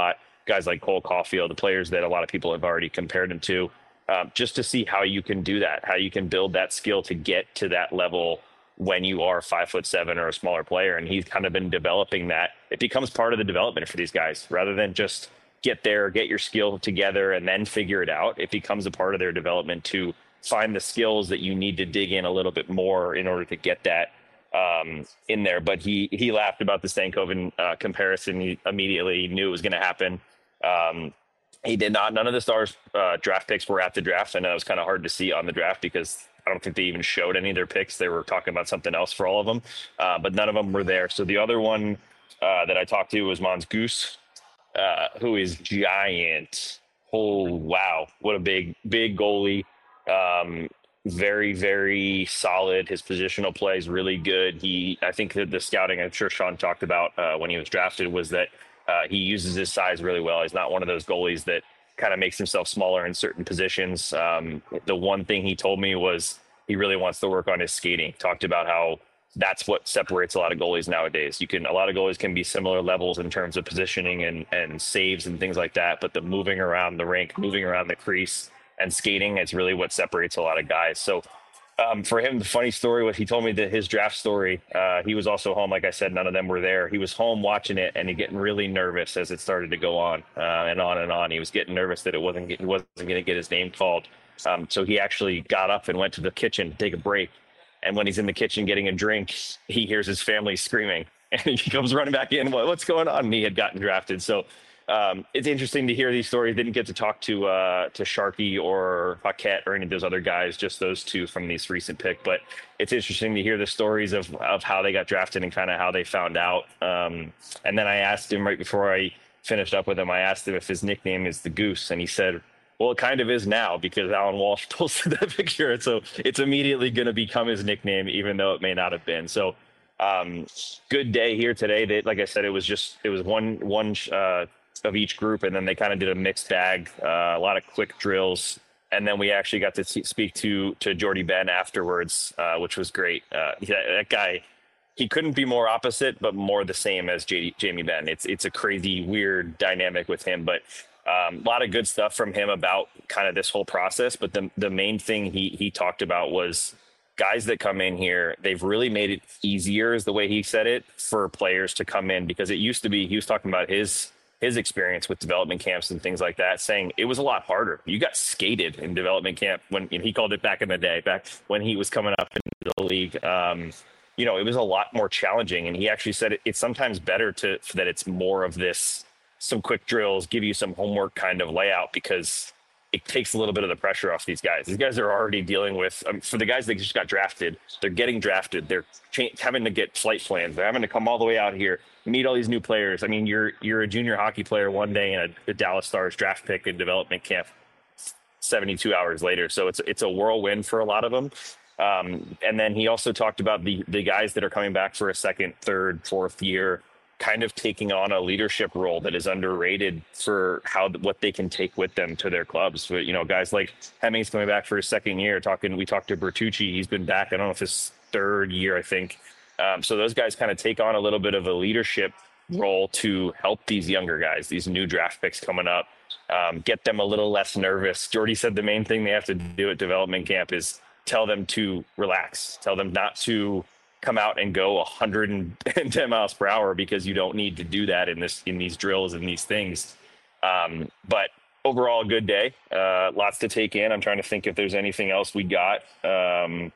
guys like Cole Caulfield, the players that a lot of people have already compared him to, um, just to see how you can do that, how you can build that skill to get to that level when you are five foot seven or a smaller player. And he's kind of been developing that. It becomes part of the development for these guys rather than just get there, get your skill together and then figure it out. It becomes a part of their development to find the skills that you need to dig in a little bit more in order to get that um, in there. But he, he laughed about the Stankoven uh, comparison. He immediately knew it was going to happen. Um, he did not, none of the Stars uh, draft picks were at the draft. I know it was kind of hard to see on the draft because I don't think they even showed any of their picks. They were talking about something else for all of them, uh, but none of them were there. So the other one uh, that I talked to was Mons Goose, uh, who is giant. Oh, wow. What a big, big goalie. Um, very, very solid. His positional play is really good. He, I think that the scouting, I'm sure Sean talked about uh, when he was drafted, was that uh, he uses his size really well. He's not one of those goalies that kind of makes himself smaller in certain positions. Um, the one thing he told me was he really wants to work on his skating. Talked about how that's what separates a lot of goalies nowadays. You can, a lot of goalies can be similar levels in terms of positioning and, and saves and things like that, but the moving around the rink, moving around the crease and skating, it's really what separates a lot of guys. So um, for him, the funny story was he told me that his draft story, uh, he was also home. Like I said, none of them were there. He was home watching it and he getting really nervous as it started to go on uh, and on and on. He was getting nervous that it wasn't, he wasn't going to get his name called. Um, so he actually got up and went to the kitchen to take a break. And when he's in the kitchen getting a drink, he hears his family screaming and he comes running back in. What, what's going on? And he had gotten drafted. So um, it's interesting to hear these stories. Didn't get to talk to uh, to Sharkey or Paquette or any of those other guys, just those two from this recent pick. But it's interesting to hear the stories of, of how they got drafted and kind of how they found out. Um, and then I asked him right before I finished up with him, I asked him if his nickname is the Goose. And he said, well, it kind of is now because Alan Walsh posted that picture. So it's immediately going to become his nickname, even though it may not have been. So um, good day here today. They, like I said, it was just, it was one, one uh, of each group. And then they kind of did a mixed bag, uh, a lot of quick drills. And then we actually got to t- speak to, to Jordie Benn afterwards, uh, which was great. Uh, that, that guy, he couldn't be more opposite, but more the same as J D, Jamie Benn. It's, it's a crazy, weird dynamic with him, but Um, a lot of good stuff from him about kind of this whole process. But the the main thing he he talked about was guys that come in here, they've really made it easier, is the way he said it, for players to come in, because it used to be, he was talking about his his experience with development camps and things like that, saying it was a lot harder. You got skated in development camp when, and he called it back in the day, back when he was coming up into the league. Um, you know, it was a lot more challenging. And he actually said it, it's sometimes better to that it's more of this, some quick drills, give you some homework kind of layout, because it takes a little bit of the pressure off these guys. These guys are already dealing with, um, for the guys that just got drafted, they're getting drafted. They're cha- having to get flight plans. They're having to come all the way out here, meet all these new players. I mean, you're you're a junior hockey player one day and a, a Dallas Stars draft pick in development camp seventy-two hours later. So it's it's a whirlwind for a lot of them. Um, and then he also talked about the the guys that are coming back for a second, third, fourth year, kind of taking on a leadership role that is underrated for how what they can take with them to their clubs. But, you know, guys like Hemming's coming back for his second year. Talking, we talked to Bertucci. He's been back, I don't know if his third year, I think. Um, so those guys kind of take on a little bit of a leadership role to help these younger guys, these new draft picks coming up, um, get them a little less nervous. Jordie said the main thing they have to do at development camp is tell them to relax, tell them not to come out and go one hundred ten miles per hour, because you don't need to do that in this, in these drills and these things. Um, but overall, a good day, uh, lots to take in. I'm trying to think if there's anything else we got. Um,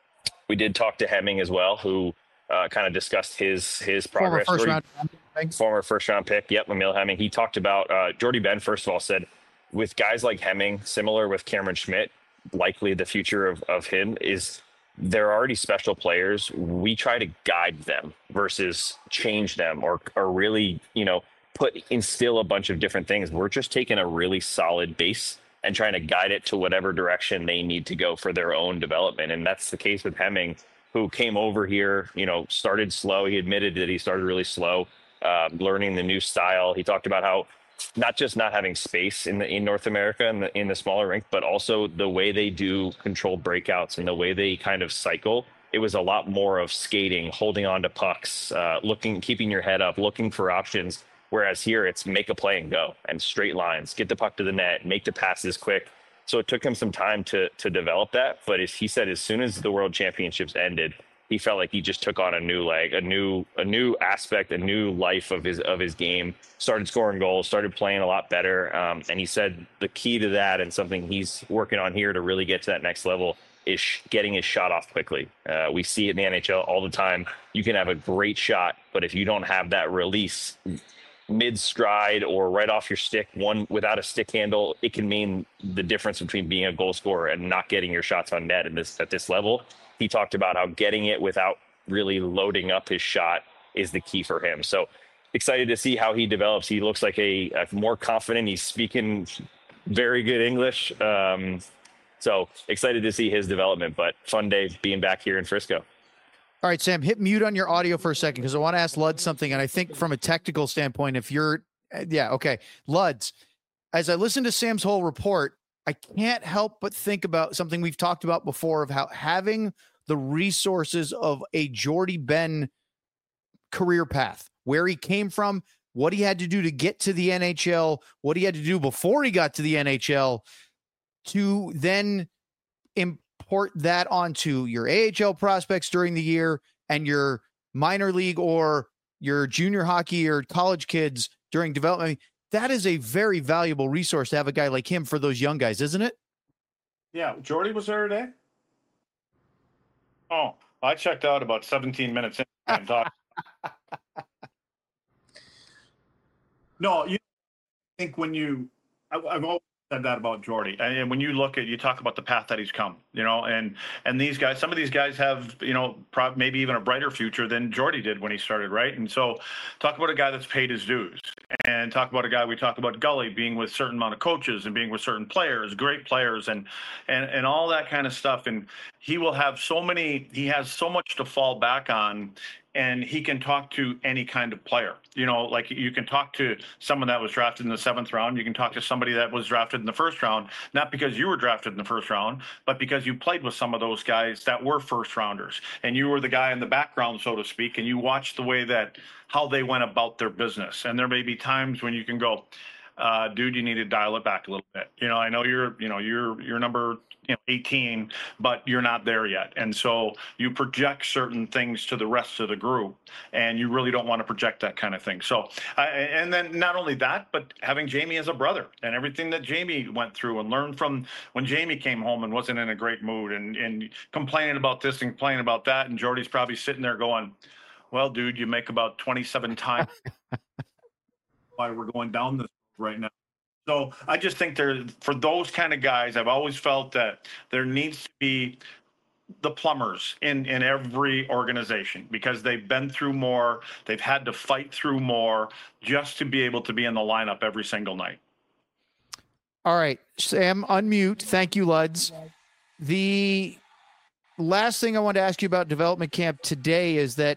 we did talk to Hemming as well, who uh, kind of discussed his, his progress. Former first Jordie, round. Former first round pick. Yep. Emil Hemming. He talked about, uh, Jordie Benn, first of all, said with guys like Hemming, similar with Cameron Schmidt, likely the future of, of him is, they're already special players. We try to guide them versus change them or, or really, you know, put, instill a bunch of different things. We're just taking a really solid base and trying to guide it to whatever direction they need to go for their own development. And that's the case with Hemming, who came over here, you know, started slow. He admitted that he started really slow, uh, learning the new style. He talked about how not just not having space in the in North America and in, in the smaller rink, but also the way they do controlled breakouts and the way they kind of cycle. It was a lot more of skating, holding on to pucks, uh, looking, keeping your head up, looking for options. Whereas here it's make a play and go, and straight lines, get the puck to the net, make the passes quick. So it took him some time to to develop that. But as he said, as soon as the World Championships ended, he felt like he just took on a new leg, a new a new aspect, a new life of his of his game. Started scoring goals, started playing a lot better. Um, and he said the key to that, and something he's working on here to really get to that next level, is sh- getting his shot off quickly. Uh, we see it in the N H L all the time. You can have a great shot, but if you don't have that release mid stride or right off your stick, one without a stick handle, it can mean the difference between being a goal scorer and not getting your shots on net in this at this level. He talked about how getting it without really loading up his shot is the key for him. So excited to see how he develops. He looks like a, a more confident. He's speaking very good English. Um, so excited to see his development, but fun day being back here in Frisco. All right, Sam, hit mute on your audio for a second because I want to ask Lud something. And I think from a technical standpoint, if you're, yeah, okay. Luds, as I listen to Sam's whole report, I can't help but think about something we've talked about before of how having the resources of a Jordie Benn career path, where he came from, what he had to do to get to the N H L, what he had to do before he got to the N H L, to then import that onto your A H L prospects during the year and your minor league or your junior hockey or college kids during development. I mean, that is a very valuable resource to have a guy like him for those young guys, isn't it? Yeah. Jordie was there today? Oh, I checked out about seventeen minutes in. And talked. No, you think when you, I, I've always said that about Jordie. And when you look at, you talk about the path that he's come, you know, and, and these guys, some of these guys have, you know, prob- maybe even a brighter future than Jordie did when he started, right? And so talk about a guy that's paid his dues, and talk about a guy, we talk about Gully being with certain amount of coaches and being with certain players, great players, and, and, and all that kind of stuff. And he will have so many, he has so much to fall back on, and he can talk to any kind of player. You know, like you can talk to someone that was drafted in the seventh round. You can talk to somebody that was drafted in the first round, not because you were drafted in the first round, but because you played with some of those guys that were first rounders, and you were the guy in the background, so to speak, and you watched the way that, how they went about their business. And there may be times when you can go, uh, dude, you need to dial it back a little bit. You know, I know you're, you know, you're, you're number, you know, eighteen, but you're not there yet. And so you project certain things to the rest of the group, and you really don't want to project that kind of thing. So, uh, and then not only that, but having Jamie as a brother and everything that Jamie went through and learned from when Jamie came home and wasn't in a great mood and, and complaining about this and complaining about that. And Jordie's probably sitting there going, well, dude, you make about twenty-seven times why we're going down this right now. So I just think there, for those kind of guys, I've always felt that there needs to be the plumbers in, in every organization, because they've been through more, they've had to fight through more just to be able to be in the lineup every single night. All right, Sam, unmute. Thank you, Luds. The last thing I want to ask you about development camp today is that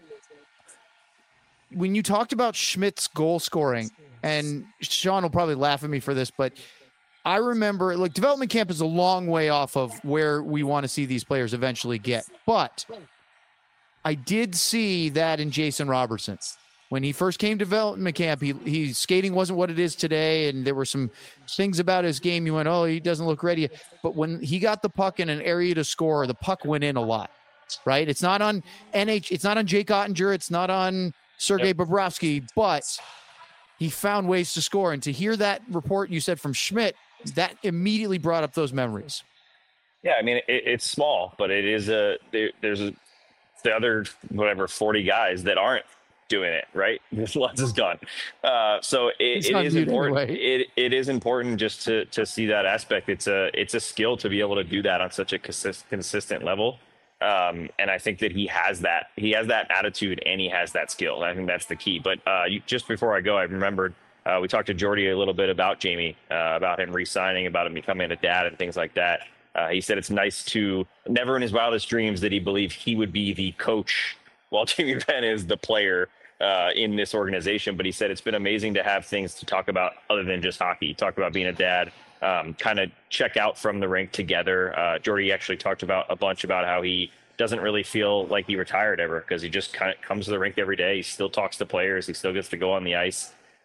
when you talked about Schmidt's goal scoring, and Sean will probably laugh at me for this, but I remember, like, development camp is a long way off of where we want to see these players eventually get. But I did see that in Jason Robertson. When he first came to development camp, he, he skating wasn't what it is today, and there were some things about his game. You went, oh, he doesn't look ready. But when he got the puck in an area to score, the puck went in a lot, right? It's not on N H, it's not on Jake Ottinger, it's not on Sergei yep. Bobrovsky, but he found ways to score. And to hear that report you said from Schmidt, that immediately brought up those memories. Yeah, I mean, it, it's small, but it is a there, there's a, the other whatever forty guys that aren't doing it right. Lutz is gone, uh, so it, it is important. Anyway. It it is important just to to see that aspect. It's a it's a skill to be able to do that on such a consist, consistent level. Um, and I think that he has that, he has that attitude and he has that skill. And I think that's the key. But uh, you, just before I go, I remembered uh, we talked to Jordie a little bit about Jamie, uh, about him re-signing, about him becoming a dad and things like that. Uh, he said it's nice to, never in his wildest dreams did he believe he would be the coach while Jamie Benn is the player uh, in this organization. But he said it's been amazing to have things to talk about other than just hockey. Talk about being a dad. Um, kind of check out from the rink together. Uh, Jordie actually talked about a bunch about how he doesn't really feel like he retired ever because he just kind of comes to the rink every day. He still talks to players. He still gets to go on the ice.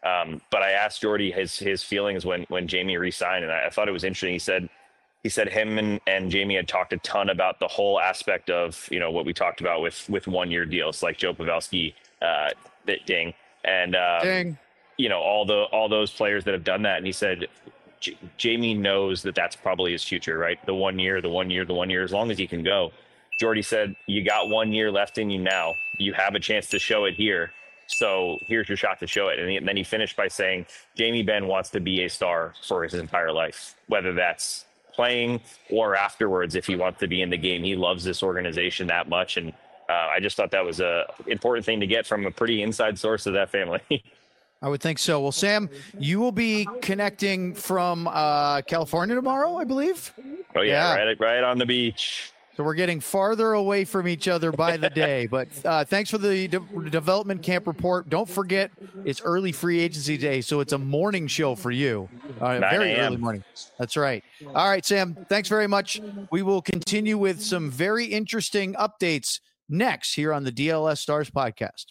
Um, but I asked Jordy his his feelings when when Jamie re-signed, and I, I thought it was interesting. He said he said him and, and Jamie had talked a ton about the whole aspect of, you know, what we talked about with with one year deals like Joe Pavelski, uh, ding, and um, Ding. you know, all the all those players that have done that. And he said J- Jamie knows that that's probably his future, right? The one year, the one year, the one year, as long as he can go. Jordy said, you got one year left in you now. You have a chance to show it here. So here's your shot to show it. And, he, and then he finished by saying, Jamie Benn wants to be a star for his entire life, whether that's playing or afterwards. If he wants to be in the game, he loves this organization that much. And uh, I just thought that was a important thing to get from a pretty inside source of that family. I would think so. Well, Sam, you will be connecting from uh, California tomorrow, I believe. Oh yeah, Yeah. right, right on the beach. So we're getting farther away from each other by the day. But uh, thanks for the de- development camp report. Don't forget, it's early free agency day, so it's a morning show for you. Uh, very early morning. That's right. All right, Sam, thanks very much. We will continue with some very interesting updates next here on the D L S Stars podcast.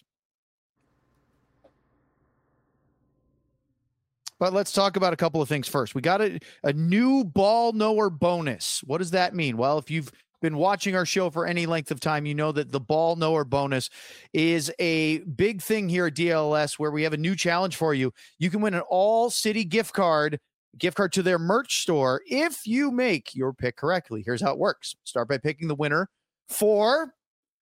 But let's talk about a couple of things first. We got a, a new ball knower bonus. What does that mean? Well, if you've been watching our show for any length of time, you know that the ball knower bonus is a big thing here at D L S where we have a new challenge for you. You can win an all city gift card, gift card to their merch store if you make your pick correctly. Here's how it works. Start by picking the winner for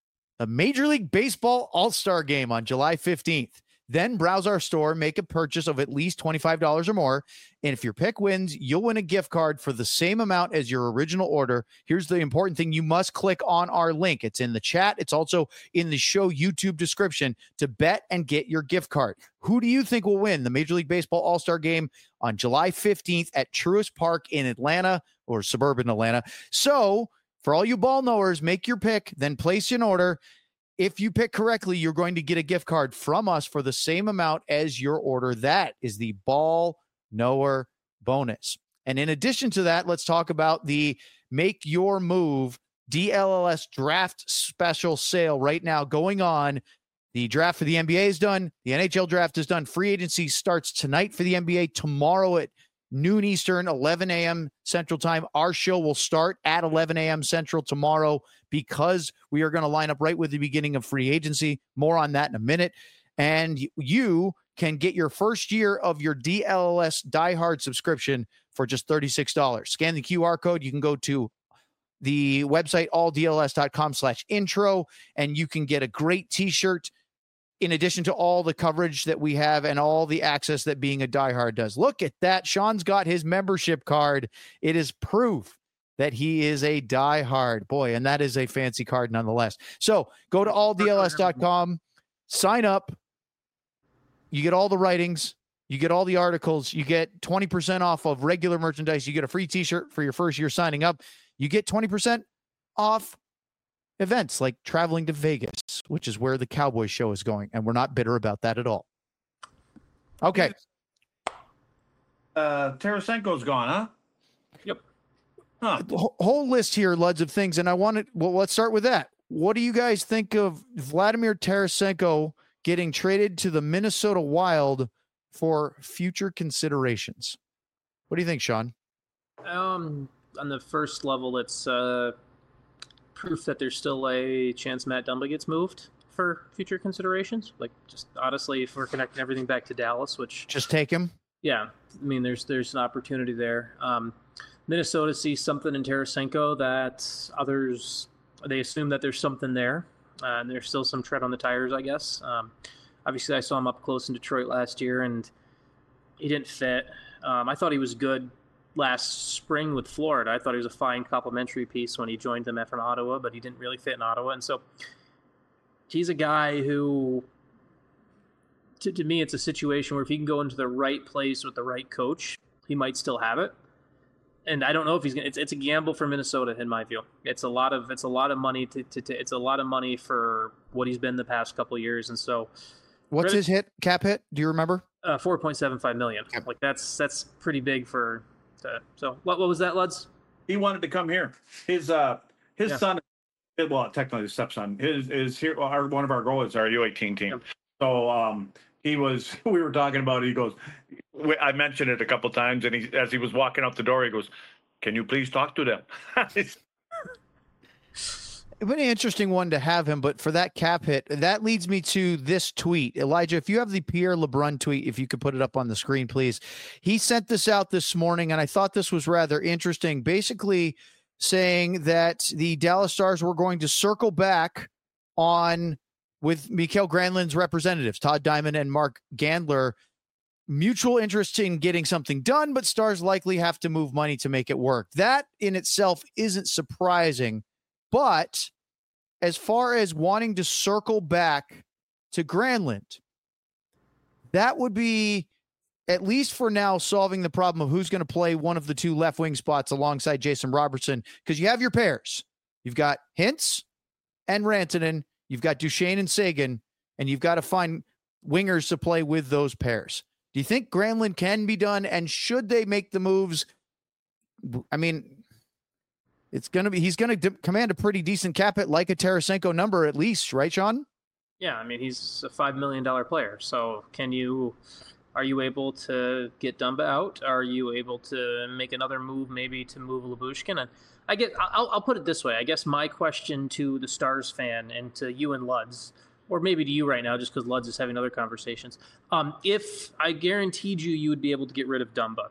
a Major League Baseball All-Star game on July fifteenth. Then browse our store, make a purchase of at least twenty-five dollars or more. And if your pick wins, you'll win a gift card for the same amount as your original order. Here's the important thing. You must click on our link. It's in the chat. It's also in the show YouTube description to bet and get your gift card. Who do you think will win the Major League Baseball All-Star game on July fifteenth at Truist Park in Atlanta or suburban Atlanta? So for all you ball knowers, make your pick, then place an order. If you pick correctly, you're going to get a gift card from us for the same amount as your order. That is the ball knower bonus. And in addition to that, let's talk about the Make Your Move D L L S draft special sale right now going on. The draft for the N B A is done. The N H L draft is done. Free agency starts tonight for the N B A, tomorrow at noon Eastern, eleven a.m. Central Time. Our show will start at eleven a.m. Central tomorrow because we are going to line up right with the beginning of free agency. More on that in a minute. And you can get your first year of your D L L S Die Hard subscription for just thirty-six dollars. Scan the Q R code. You can go to the website, all D L S dot com slash intro, and you can get a great t-shirt in addition to all the coverage that we have and all the access that being a diehard does. Look at that. Sean's got his membership card. It is proof that he is a diehard. Boy, and that is a fancy card nonetheless. So go to all D L S dot com, sign up. You get all the writings. You get all the articles. You get twenty percent off of regular merchandise. You get a free t-shirt for your first year signing up. You get twenty percent off events like traveling to Vegas, which is where the Cowboys show is going. And we're not bitter about that at all. Okay. Uh, Tarasenko's gone, huh? Yep. Huh. The whole- whole list here, Luds, of things. And I wanted, well, let's start with that. What do you guys think of Vladimir Tarasenko getting traded to the Minnesota Wild for future considerations? What do you think, Sean? Um, on the first level, it's uh, proof that there's still a chance Matt Dumba gets moved for future considerations. Like, just honestly, if we're connecting everything back to Dallas, which Just take him. yeah, I mean, there's there's an opportunity there. Um, Minnesota sees something in Tarasenko that others, they assume that there's something there, uh, and there's still some tread on the tires, I guess. Um, obviously, I saw him up close in Detroit last year, and he didn't fit. Um, I thought he was good last spring with Florida. I thought he was a fine complimentary piece when he joined them from Ottawa, but he didn't really fit in Ottawa. And so he's a guy who, to, to me, it's a situation where if he can go into the right place with the right coach, he might still have it. And I don't know if he's gonna. It's, it's a gamble for Minnesota, in my view. It's a lot of it's a lot of money to, to, to it's a lot of money for what he's been the past couple of years. And so, What's Really? his hit cap hit? Do you remember? uh, four point seven five million. Yep. Like that's that's pretty big for. To, so what what was that, Luds? He wanted to come here. His uh his Yeah. son, well, technically his stepson, is is here. Our one of our goalies, our U eighteen team. Yep. So um he was, we were talking about it. He goes, I mentioned it a couple times, and he, as he was walking out the door, he goes, "Can you please talk to them?" It would be an interesting one to have him, but for that cap hit, that leads me to this tweet. Elijah, if you have the Pierre LeBrun tweet, if you could put it up on the screen, please. He sent this out this morning, and I thought this was rather interesting, basically saying that the Dallas Stars were going to circle back on with Mikael Granlund's representatives, Todd Diamond and Mark Gandler, mutual interest in getting something done, but Stars likely have to move money to make it work. That in itself isn't surprising. But as far as wanting to circle back to Granlund, that would be, at least for now, solving the problem of who's going to play one of the two left wing spots alongside Jason Robertson, because you have your pairs. You've got Hintz and Rantanen. You've got Duchesne and Sagan, and you've got to find wingers to play with those pairs. Do you think Granlund can be done, and should they make the moves? I mean, it's going to be, he's going to de- command a pretty decent cap hit, like a Tarasenko number at least, right, Sean? Yeah, I mean, he's a five million dollars player. So can you, are you able to get Dumba out? Are you able to make another move, maybe to move Lyubushkin? And I get, I'll, I'll put it this way. I guess my question to the Stars fan and to you and Luds, or maybe to you right now, just because Luds is having other conversations. Um, if I guaranteed you, you would be able to get rid of Dumba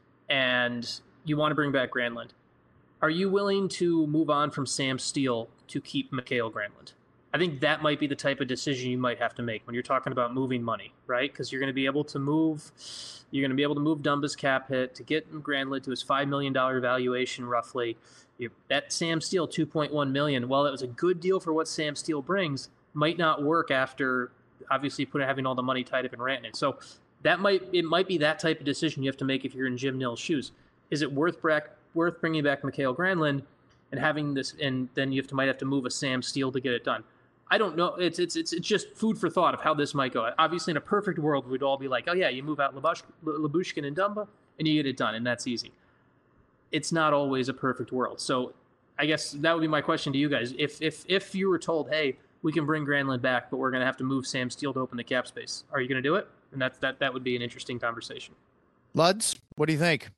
and you want to bring back Granlund, are you willing to move on from Sam Steele to keep Mikael Granlund? I think that might be the type of decision you might have to make when you're talking about moving money, right? Because you're going to be able to move, you're going to be able to move Dumba's cap hit to get Granlund to his five million dollars valuation roughly. You, that Sam Steele two point one million dollars, while it was a good deal for what Sam Steele brings, might not work after obviously put having all the money tied up in Rantanen. So that might it might be that type of decision you have to make if you're in Jim Nill's shoes. Is it worth back? worth bringing back Mikael Granlund and having this, and then you have to might have to move a Sam Steele to get it done. I don't know. It's it's it's it's just food for thought of how this might go. Obviously, in a perfect world, we'd all be like, oh yeah, you move out Lyubush- Lyubushkin and Dumba, and you get it done, and that's easy. It's not always a perfect world. So I guess that would be my question to you guys. If if if you were told, hey, we can bring Granlund back, but we're going to have to move Sam Steele to open the cap space, are you going to do it? And that's that that would be an interesting conversation. Luds, what do you think?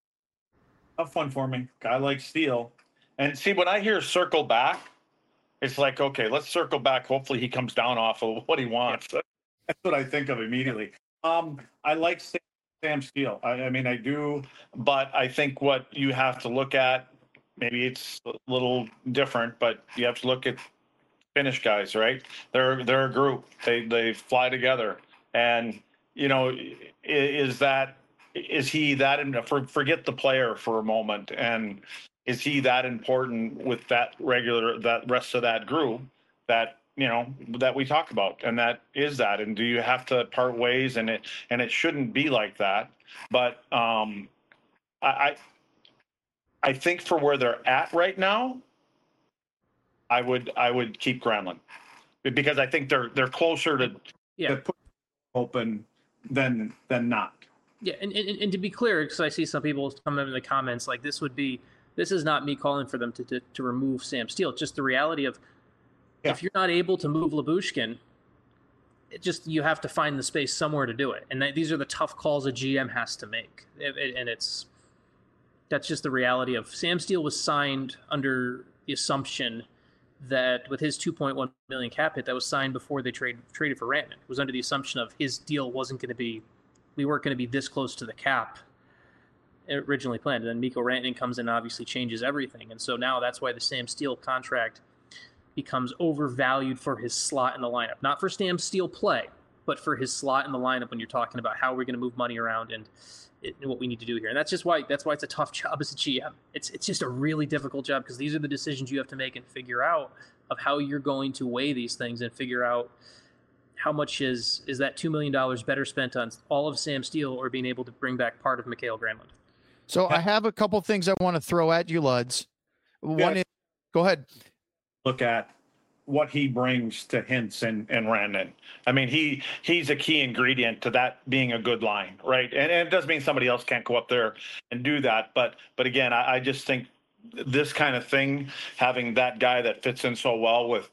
Tough one for me. I like Steele. And see, when I hear circle back, it's like, okay, let's circle back. Hopefully he comes down off of what he wants. That's what I think of immediately. Um, I like Sam, Sam Steele. I, I mean, I do, but I think what you have to look at, maybe it's a little different, but you have to look at Finnish guys, right? They're they're a group. They they fly together. And, you know, is that Is he that, in, for, forget the player for a moment, and is he that important with that regular, that rest of that group that, you know, that we talk about? And that is that, and do you have to part ways? And it, and it shouldn't be like that. But um, I, I think for where they're at right now, I would, I would keep Granlund, because I think they're, they're closer to, yeah. to put open than, than not. Yeah, and, and, and to be clear, because I see some people coming in the comments, like this would be, this is not me calling for them to to, to remove Sam Steele. It's just the reality of yeah. if you're not able to move Lyubushkin, it just you have to find the space somewhere to do it. And that, these are the tough calls a G M has to make. It, it, and it's that's just the reality of Sam Steele was signed under the assumption that with his two point one million cap hit that was signed before they trade traded for Rantanen. It was under the assumption of his deal wasn't going to be we weren't going to be this close to the cap originally planned. And then Mikko Rantanen comes in and obviously changes everything. And so now that's why the Sam Steele contract becomes overvalued for his slot in the lineup. Not for Sam Steele play, but for his slot in the lineup when you're talking about how we're going to move money around and, it, and what we need to do here. And that's just why that's why it's a tough job as a G M. It's it's just a really difficult job because these are the decisions you have to make and figure out of how you're going to weigh these things and figure out how much is is that two million dollars better spent on all of Sam Steele or being able to bring back part of Mikael Granlund? So I have a couple things I want to throw at you, Luds. One yeah. is, go ahead. Look at what he brings to Hintz and, and Rantanen. I mean, he he's a key ingredient to that being a good line, right? And, and it doesn't mean somebody else can't go up there and do that. But but again, I, I just think this kind of thing, having that guy that fits in so well with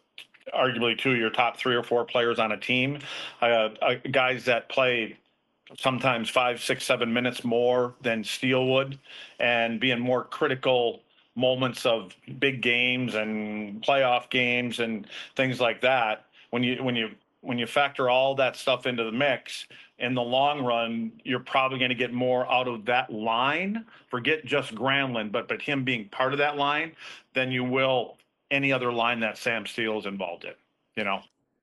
arguably two of your top three or four players on a team, uh, uh, guys that play sometimes five, six, seven minutes more than Steele would, and being more critical moments of big games and playoff games and things like that. When you when you when you factor all that stuff into the mix, in the long run, you're probably going to get more out of that line. Forget just Granlund, but but him being part of that line, than you will any other line that Sam Steele is involved in. You know.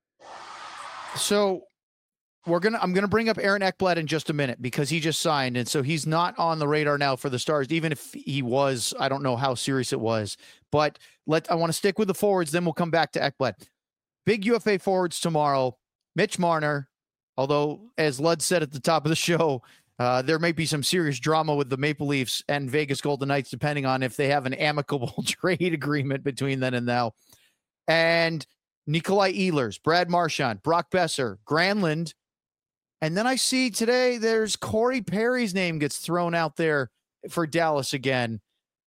So we're gonna I'm gonna bring up Aaron Ekblad in just a minute because he just signed, and so he's not on the radar now for the Stars. Even if he was, I don't know how serious it was. But let I want to stick with the forwards, then we'll come back to Ekblad. Big U F A forwards tomorrow. Mitch Marner, although as Lud said at the top of the show, uh, there may be some serious drama with the Maple Leafs and Vegas Golden Knights, depending on if they have an amicable trade agreement between then and now. And Nikolai Ehlers, Brad Marchand, Brock Besser, Granlund. And then I see today there's Corey Perry's name gets thrown out there for Dallas again.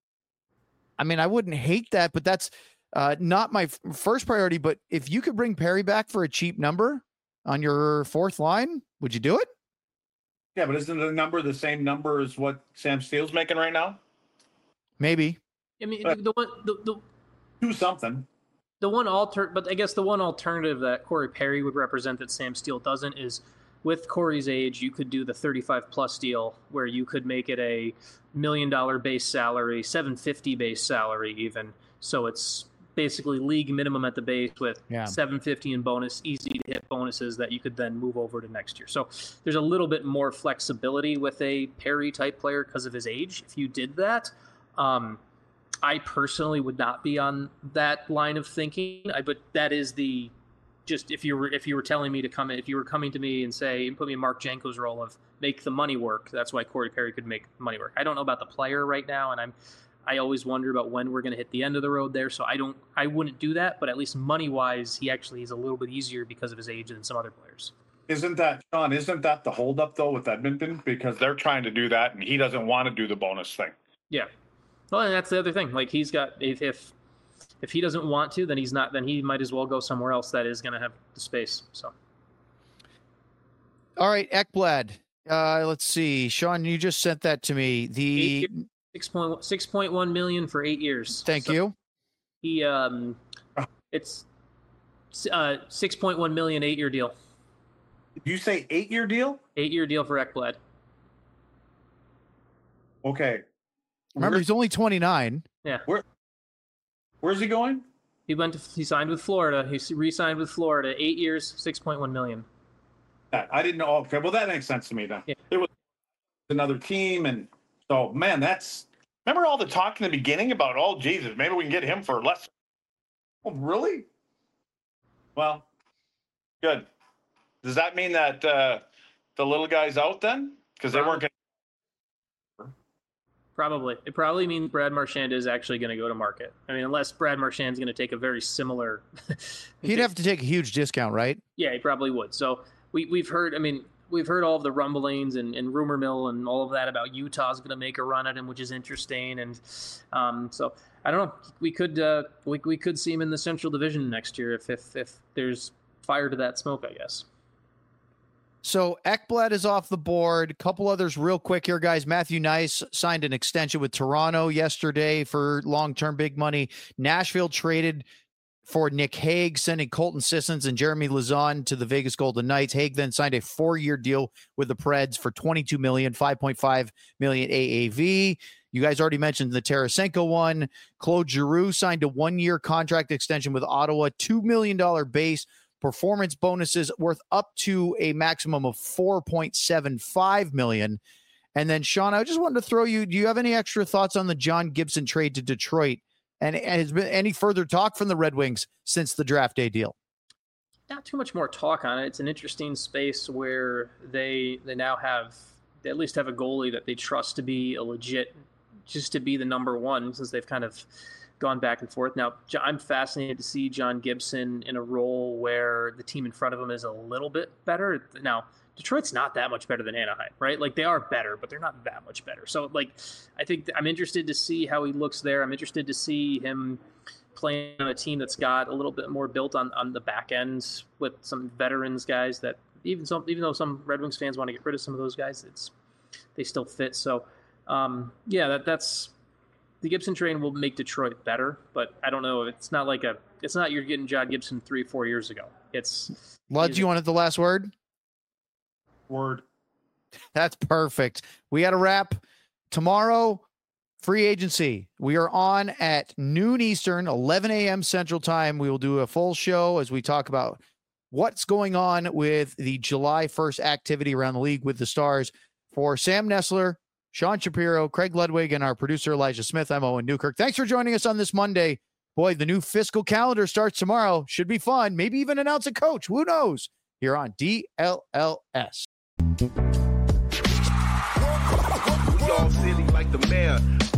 I mean, I wouldn't hate that, but that's uh, not my f- first priority. But if you could bring Perry back for a cheap number on your fourth line, would you do it? Yeah, but isn't the number the same number as what Sam Steele's making right now? Maybe. I mean, the, the one, the, the, Do something. the one alter, but I guess the one alternative that Corey Perry would represent that Sam Steele doesn't is, with Corey's age, you could do the thirty-five plus deal where you could make it a million dollar base salary, seven fifty base salary even. So it's basically league minimum at the base with Yeah. seven fifty in bonus, easy to hit bonuses that you could then move over to next year. So there's a little bit more flexibility with a Perry type player because of his age. If you did that, um, I personally would not be on that line of thinking. I, but that is the just if you were if you were telling me to come in, if you were coming to me and say and put me in Mark Janko's role of make the money work, that's why Corey Perry could make money work. I don't know about the player right now, and I'm I always wonder about when we're going to hit the end of the road there. So I don't I wouldn't do that, but at least money wise, he actually is a little bit easier because of his age than some other players. Isn't that, Sean, isn't that the holdup, though, with Edmonton? Because they're trying to do that, and he doesn't want to do the bonus thing. Yeah. Well, and that's the other thing. Like, he's got, if if, if he doesn't want to, then he's not, then he might as well go somewhere else that is going to have the space. So. All right, Ekblad. Uh, let's see. Sean, you just sent that to me. The six point one million for eight years. Thank so you. He, um, it's uh, six point one million eight year deal. Did you say eight-year deal? Eight-year deal for Ekblad. Okay. Remember, Where, he's only twenty-nine. Yeah. Where, where's he going? He went to, he signed with Florida. He re-signed with Florida. Eight years, six point one million. I didn't know. Okay, well, that makes sense to me then. Yeah. It was another team, and so, man, that's... Remember all the talk in the beginning about, oh, Jesus, maybe we can get him for less. Oh, really? Well, good. Does that mean that uh, the little guy's out then? Because they weren't going to... Probably. It probably means Brad Marchand is actually going to go to market. I mean, unless Brad Marchand's going to take a very similar... He'd have to take a huge discount, right? Yeah, he probably would. So we, we've heard, I mean, we've heard all of the rumblings and, and rumor mill and all of that about Utah's going to make a run at him, which is interesting. And um, so I don't know. We could uh, we, we could see him in the Central Division next year if, if, if there's fire to that smoke, I guess. So Ekblad is off the board. A couple others real quick here, guys. Matthew Nice signed an extension with Toronto yesterday for long-term big money. Nashville traded for Nick Hague, sending Colton Sissons and Jeremy Lauzon to the Vegas Golden Knights. Hague then signed a four-year deal with the Preds for twenty-two million dollars, five point five million dollars A A V. You guys already mentioned the Tarasenko one. Claude Giroux signed a one-year contract extension with Ottawa, two million dollars base, performance bonuses worth up to a maximum of four point seven five million dollars. And then, Sean, I just wanted to throw you, do you have any extra thoughts on the John Gibson trade to Detroit? And, and has been any further talk from the Red Wings since the draft day deal? Not too much more talk on it. It's an interesting space where they they now have, they at least have a goalie that they trust to be a legit, just to be the number one, since they've kind of gone back and forth. Now, I'm fascinated to see John Gibson in a role where the team in front of him is a little bit better. Now, Detroit's not that much better than Anaheim, right? Like, they are better, but they're not that much better. So, like, I think I'm interested to see how he looks there. I'm interested to see him playing on a team that's got a little bit more built on, on the back end with some veterans guys that even some even though some Red Wings fans want to get rid of some of those guys, it's they still fit. So um, yeah, that that's the Gibson train will make Detroit better, but I don't know. It's not like a it's not you're getting John Gibson three four years ago. It's Lud, you wanted the last word? Word. That's perfect. We got to wrap tomorrow. Free agency. We are on at noon Eastern, eleven a.m. Central Time. We will do a full show as we talk about what's going on with the July first activity around the league with the Stars. For Sam Nessler, Sean Shapiro, Craig Ludwig, and our producer Elijah Smith, I'm Owen Newkirk. Thanks for joining us on this Monday. Boy, the new fiscal calendar starts tomorrow. Should be fun. Maybe even announce a coach. Who knows? Here on D L L S. We all silly like the mayor.